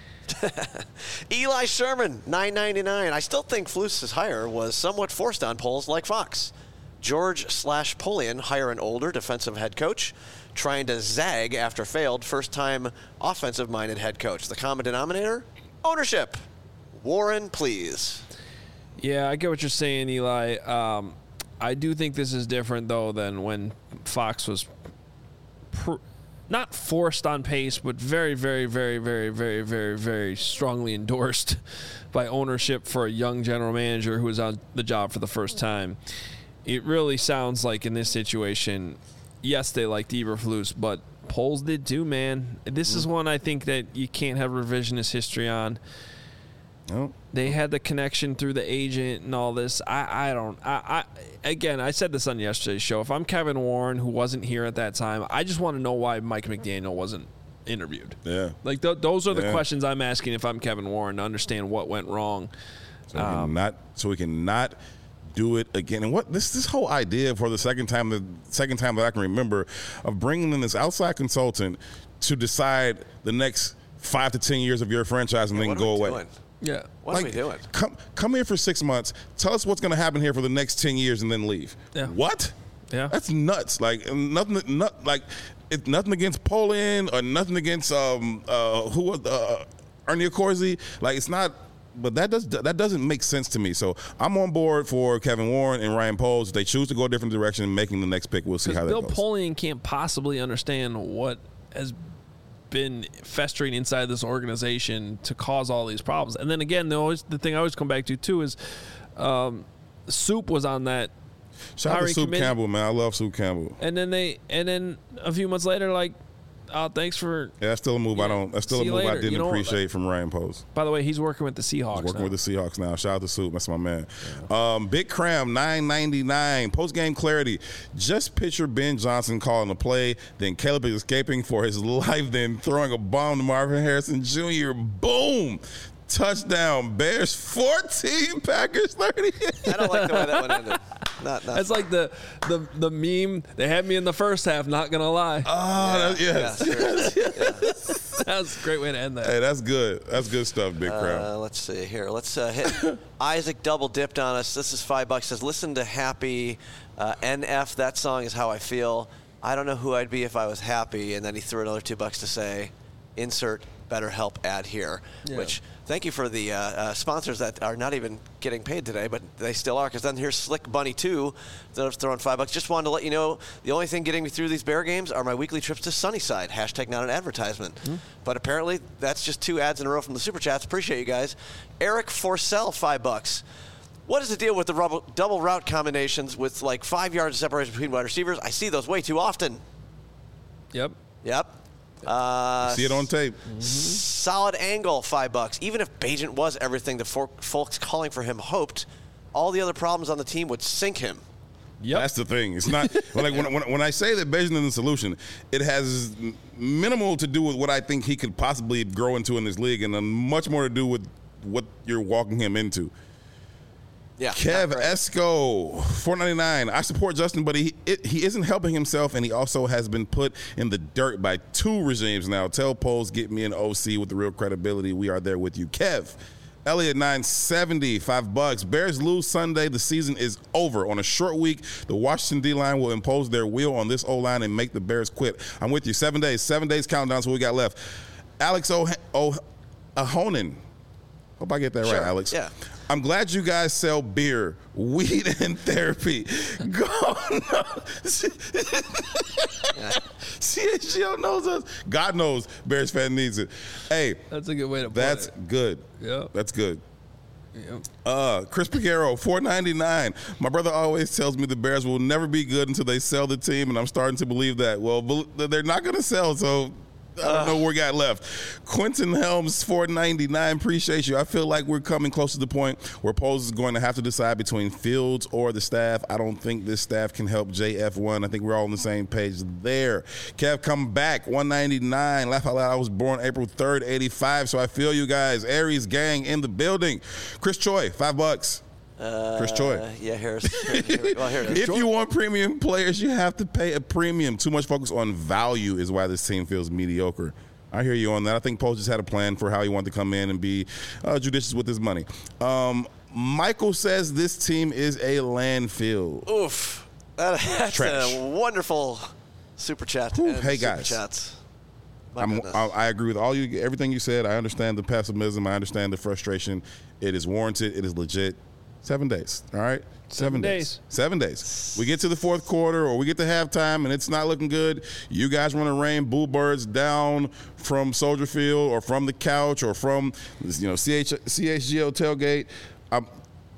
Eli Sherman, nine ninety-nine. I still think Fluce's hire was somewhat forced on polls like Fox. George slash Polian hire an older defensive head coach, trying to zag after failed first-time offensive-minded head coach. The common denominator? Ownership. Warren, please. Yeah, I get what you're saying, Eli. Um, I do think this is different, though, than when Fox was pr- not forced on pace, but very, very, very, very, very, very, very strongly endorsed by ownership for a young general manager who was on the job for the first time. It really sounds like in this situation, yes, they liked Eberflus, but polls did too, man. This is one I think that you can't have revisionist history on. no. They had the connection through the agent and all this. I, I don't. I, I again, I said this on yesterday's show. If I'm Kevin Warren, who wasn't here at that time, I just want to know why Mike McDaniel wasn't interviewed. Yeah. Like th- those are the Yeah. questions I'm asking if I'm Kevin Warren to understand what went wrong. So we can not. So we can not do it again. And what this this whole idea for the second time the second time that I can remember of bringing in this outside consultant to decide the next five to ten years of your franchise and then What are go we away. doing? Yeah. What are we doing? Come come here for six months. Tell us what's going to happen here for the next ten years, and then leave. Yeah. What? Yeah. That's nuts. Like nothing. Not like it's nothing against Poland or nothing against um uh who was uh, Ernie Accorsi. Like it's not. But that does that doesn't make sense to me. So I'm on board for Kevin Warren and Ryan Poles. If they choose to go a different direction and making the next pick, we'll see how that Bill goes. Polian can't possibly understand what has been festering inside this organization to cause all these problems. And then again, the, always, the thing I always come back to too is um, Soup was on that. Shout out to hiring Soup committee. Campbell, man. I love Soup Campbell. And then they, and then a few months later, like, Oh, thanks for. Yeah, that's still a move. Yeah. I don't. That's still See a you move I later. didn't You know what? appreciate from Ryan Post. By the way, he's working with the Seahawks. Working now. with the Seahawks now. Shout out to Soup. That's my man. Yeah. Um, Big Cram, nine ninety-nine. Post game clarity. Just picture Ben Johnson calling a play, then Caleb is escaping for his life, then throwing a bomb to Marvin Harrison Junior Boom. Touchdown. Bears fourteen, Packers thirty. I don't like the way that one ended. Not, not That's like the, the the meme. They had me in the first half. Not gonna lie. Oh, yeah, that, yes. yeah, yeah. That was a great way to end that. Hey, that's good. That's good stuff, Big Cram. Uh, let's see here. Let's uh, hit. Isaac double dipped on us. This is five bucks. Says, listen to Happy uh, N F. That song is how I feel. I don't know who I'd be if I was happy. And then he threw another two bucks to say, insert BetterHelp ad here. Yeah. Which, thank you for the uh, uh, sponsors that are not even getting paid today, but they still are. Because then here's Slick Bunny two, that was throwing five bucks. Just wanted to let you know the only thing getting me through these Bear games are my weekly trips to Sunnyside. Hashtag not an advertisement. Mm-hmm. But apparently that's just two ads in a row from the super chats. Appreciate you guys. Eric Forsell, five bucks. What is the deal with the rubble, double route combinations with like five yards of separation between wide receivers? I see those way too often. Yep. Yep. Uh, See it on tape. Mm-hmm. Solid angle, five bucks. Even if Bagent was everything the for- folks calling for him hoped, all the other problems on the team would sink him. Yep. That's the thing. It's not like when, when, when I say that Bagent is the solution, it has minimal to do with what I think he could possibly grow into in this league, and much more to do with what you're walking him into. Yeah. Kev Esco, four ninety-nine. I support Justin, but he it, he isn't helping himself, and he also has been put in the dirt by two regimes now. Tell polls, get me an O C with the real credibility. We are there with you. Kev, Elliot, nine seventy, five bucks. Bears lose Sunday. The season is over. On a short week, the Washington D-line will impose their will on this O-line and make the Bears quit. I'm with you. Seven days. Seven days countdown is what we got left. Alex O- o- Ahonen. Hope I get that Sure. right, Alex. Yeah. I'm glad you guys sell beer, weed, and therapy. Go no. C H G O knows us. God knows Bears fan needs it. Hey, That's a good way to put that's it. good. Yep. That's good. Yep. Uh, Chris Piguero, four ninety-nine. My brother always tells me the Bears will never be good until they sell the team, and I'm starting to believe that. Well, they're not going to sell, so I don't know what we got left. Quentin Helms, four ninety-nine. Appreciate you. I feel like we're coming close to the point where Poles is going to have to decide between Fields or the staff. I don't think this staff can help J F one. I think we're all on the same page there. Kev, come back, one ninety-nine. Laugh out loud. I was born April third, eighty-five, so I feel you guys. Aries gang in the building. Chris Choi, five bucks. Uh, Chris Choi. Yeah, here's. Here, here, well, here it is. If you want premium players, you have to pay a premium. Too much focus on value is why this team feels mediocre. I hear you on that. I think Poles just had a plan for how he wanted to come in and be uh, judicious with his money. Um, Michael says this team is a landfill. Oof. That, that's Trash. a wonderful super chat. Whew. and Hey, super guys. Chats. My I'm, goodness. I, I agree with all you, everything you said. I understand the pessimism. I understand the frustration. It is warranted. It is legit. Seven days, all right? Seven, Seven days. days. Seven days. We get to the fourth quarter or we get to halftime and it's not looking good. You guys want to rain boo birds down from Soldier Field or from the couch or from, you know, C H, C H G O tailgate. I'm,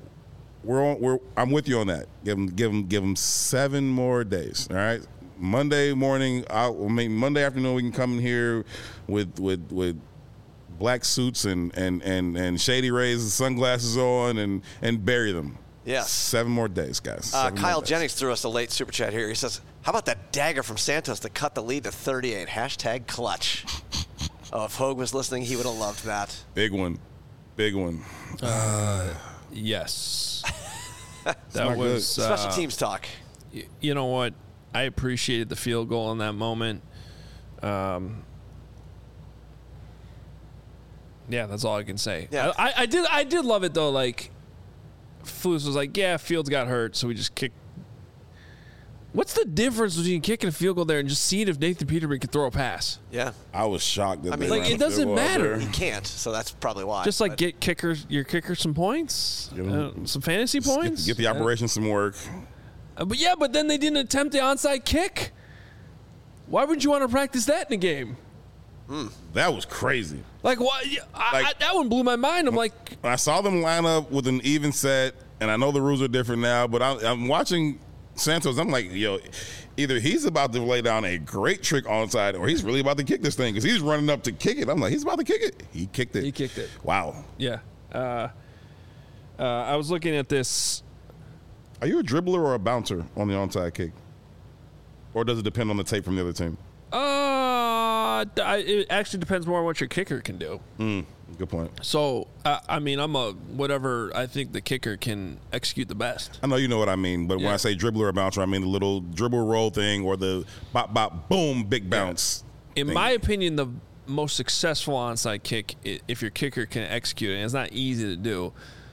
we're on, we're, I'm with you on that. Give them, give them, give them seven more days, all right? Monday morning, I'll, I mean, Monday afternoon, we can come in here with, with, with, black suits and, and, and, and shady rays and sunglasses on and, and bury them. Yeah. Seven more days, guys. Uh, Seven Kyle more days. Jennings threw us a late super chat here. He says, how about that dagger from Santos to cut the lead to thirty-eight? Hashtag clutch. Oh, if Hogue was listening, he would have loved that. Big one. Big one. Uh, yes. that not was Special uh, teams talk. y- you know what? I appreciated the field goal in that moment. Um, yeah, that's all I can say. Yeah. I, I, I did. I did love it though. Like, Flus was like, "Yeah, Fields got hurt, so we just kicked." What's the difference between kicking a field goal there and just seeing if Nathan Peterman can throw a pass? Yeah. I was shocked that I mean, they like, ran it the field doesn't goal out matter. there. He can't, so that's probably why. Just like But get kickers, your kicker some points, Give 'em- uh, some fantasy Just points. Get, get the operation some work. Uh, but yeah, but then they didn't attempt the onside kick. Why would you want to practice that in a game? That was crazy. Like, why? I, Like- I, that one blew my mind. I'm like, When I saw them line up with an even set, and I know the rules are different now, but I, I'm watching Santos, I'm like, yo, either he's about to lay down a great trick onside or he's really about to kick this thing because he's running up to kick it. I'm like, he's about to kick it. He kicked it. He kicked it. Wow. Yeah. Uh, uh, I was looking at this. Are you a dribbler or a bouncer on the onside kick? Or does it depend on the tape from the other team? Uh, it actually depends more on what your kicker can do. Mm, good point. So, uh, I mean, I'm a whatever I think the kicker can execute the best. I know you know what I mean, but Yeah. when I say dribbler or bouncer, I mean the little dribble roll thing or the bop, bop, boom, big bounce. In thing. my opinion, the most successful onside kick, i- if your kicker can execute it, and it's not easy to do,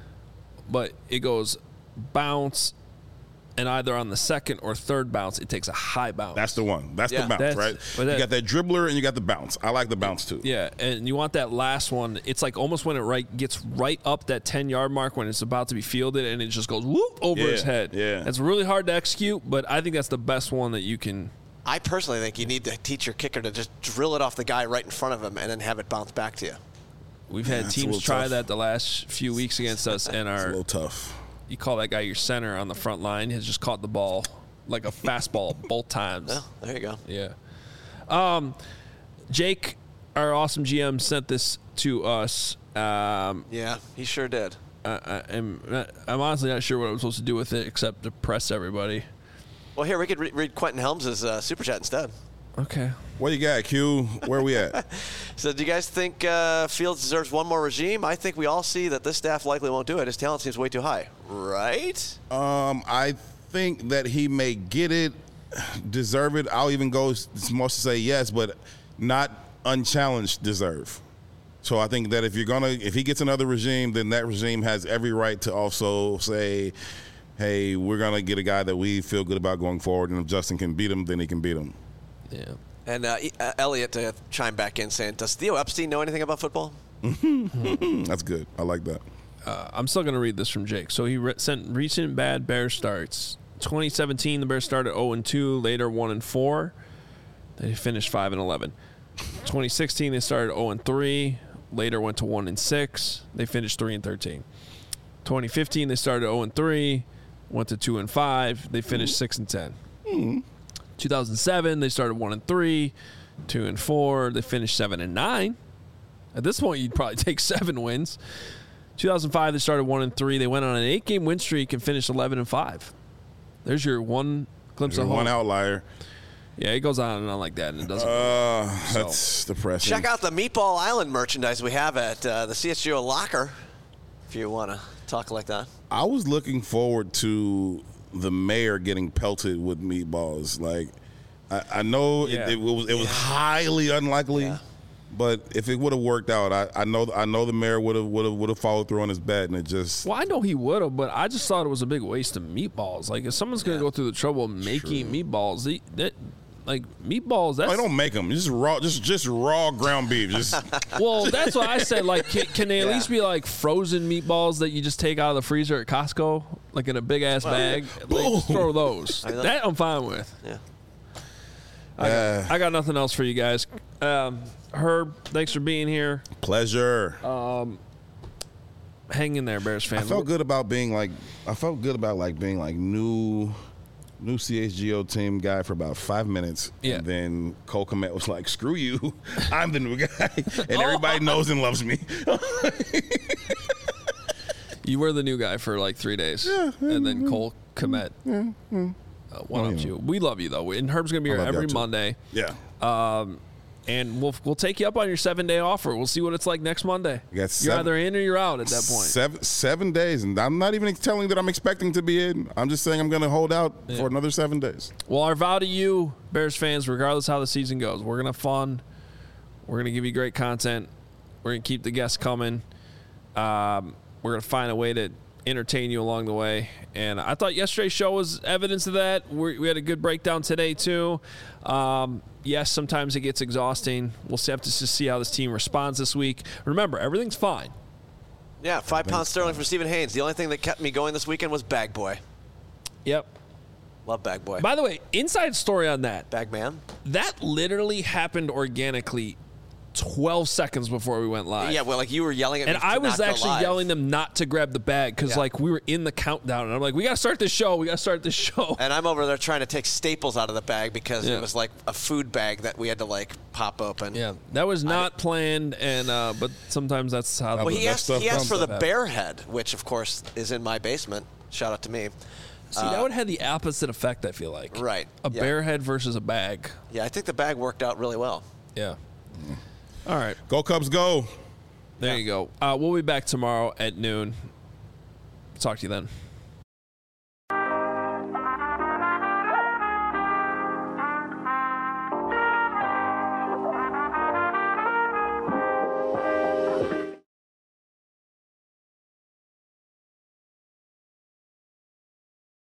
but it goes bounce, and either on the second or third bounce, it takes a high bounce. That's the one. That's Yeah. the bounce, That's- right? but that- you got that dribbler and you got the bounce. I like the bounce too. Yeah, and you want that last one. It's like almost when it right gets right up that ten-yard mark when it's about to be fielded, and it just goes whoop over Yeah, his head. yeah. It's really hard to execute, but I think that's the best one that you can. I personally think you need to teach your kicker to just drill it off the guy right in front of him and then have it bounce back to you. We've had that's a teams little try tough. that the last few weeks against us, and It's a our little tough. you call that guy your center on the front line has just caught the ball like a fastball both times. Well, there you go. Yeah. Um, Jake, our awesome G M, sent this to us. Um, Yeah, he sure did. I, I, I'm, not, I'm honestly not sure what I'm supposed to do with it except to press everybody. Well, here, we could re- read Quentin Helms' uh, super chat instead. Okay. What you got, Q? Where we at? So do you guys think uh, Fields deserves one more regime? I think we all see that this staff likely won't do it. His talent seems way too high. Right? Um, I think that he may get it, deserve it. I'll even go as much to say yes, but not unchallenged deserve. So I think that if you're gonna, if he gets another regime, then that regime has every right to also say, hey, we're gonna get a guy that we feel good about going forward, and if Justin can beat him, then he can beat him. Yeah. And uh, E- uh, Elliot to chime back in saying, does Theo Epstein know anything about football? That's good. I like that. Uh, I'm still going to read this from Jake. So he re- sent recent bad Bears starts. twenty seventeen, the Bears started oh and two, later one and four. They finished five and eleven. twenty sixteen, they started oh and three, later went to one and six. They finished three and thirteen. twenty fifteen, they started oh and three, went to two and five. They finished six and ten. two thousand seven, they started one and three, two and four. They finished seven and nine. At this point, you'd probably take seven wins. two thousand five, they started one and three. They went on an eight-game win streak and finished eleven and five. There's your one glimpse You're of one hope. outlier. Yeah, it goes on and on like that, and it doesn't. Uh, that's depressing. Check out the Meatball Island merchandise we have at uh, the C S G O locker if you want to talk like that. I was looking forward to the mayor getting pelted with meatballs. Like, I, I know Yeah. it, it was it was highly unlikely, Yeah. but if it would have worked out, I, I know I know the mayor would have would have would have followed through on his bet, and it just Well, I know he would have, but I just thought it was a big waste of meatballs. Like, if someone's going to Yeah. go through the trouble of making meatballs, they, that, like, meatballs, that's... I don't make them. Just raw, just just raw ground beef. Just Well, that's what I said. Like, can, can they at Yeah. least be like frozen meatballs that you just take out of the freezer at Costco, like in a big ass bag? Like, just throw those. I mean, that- That I'm fine with. Yeah. I got, Uh. I got nothing else for you guys. Um, Herb, thanks for being here. pleasure. Hang in there, Bears fan. I felt good about being like I felt good about like being like new new C H G O team guy for about five minutes. Yeah. And then Cole Kmet was like, screw you. I'm the new guy. And everybody knows and loves me. You were the new guy for like three days, and then Cole Komet uh, one Well, up you you. We love you though, and Herb's gonna be I here love y'all every too. Monday, Yeah. and we'll we'll take you up on your seven day offer. We'll see what it's like next Monday. You got You're seven- either in or you're out at that point. Seven seven days. And I'm not even telling that I'm expecting to be in. I'm just saying I'm gonna hold out for another seven days. Well, our vow to you, Bears fans, regardless how the season goes, we're gonna have fun. We're gonna give you great content. We're gonna keep the guests coming. Um, we're gonna find a way to entertain you along the way. And I thought yesterday's show was evidence of that. We're, we had a good breakdown today too. Um, yes, sometimes it gets exhausting. We'll have to just see how this team responds this week. Remember, everything's fine. Yeah, five pounds sterling for Stephen Haynes. The only thing that kept me going this weekend was Bag Boy. Yep. Love Bag Boy. By the way, inside story on that. Bag Man. That literally happened organically twelve seconds before we went live. Yeah, well, like you were yelling at and me. to I was not go actually live. yelling them not to grab the bag because Yeah. like we were in the countdown, and I'm like, we got to start this show. We got to start this show. And I'm over there trying to take staples out of the bag because Yeah. it was like a food bag that we had to like pop open. Yeah, that was not planned, and uh, but sometimes that's how. Well, the he that asked, stuff he asked comes for the up. bear head, which of course is in my basement. Shout out to me. See, that would have the opposite effect. I feel like Right, a yeah. bear head versus a bag. Yeah, I think the bag worked out really well. Yeah. All right, Go Cubs, go. there Yeah. you go. Uh, we'll be back tomorrow at noon. Talk to you then.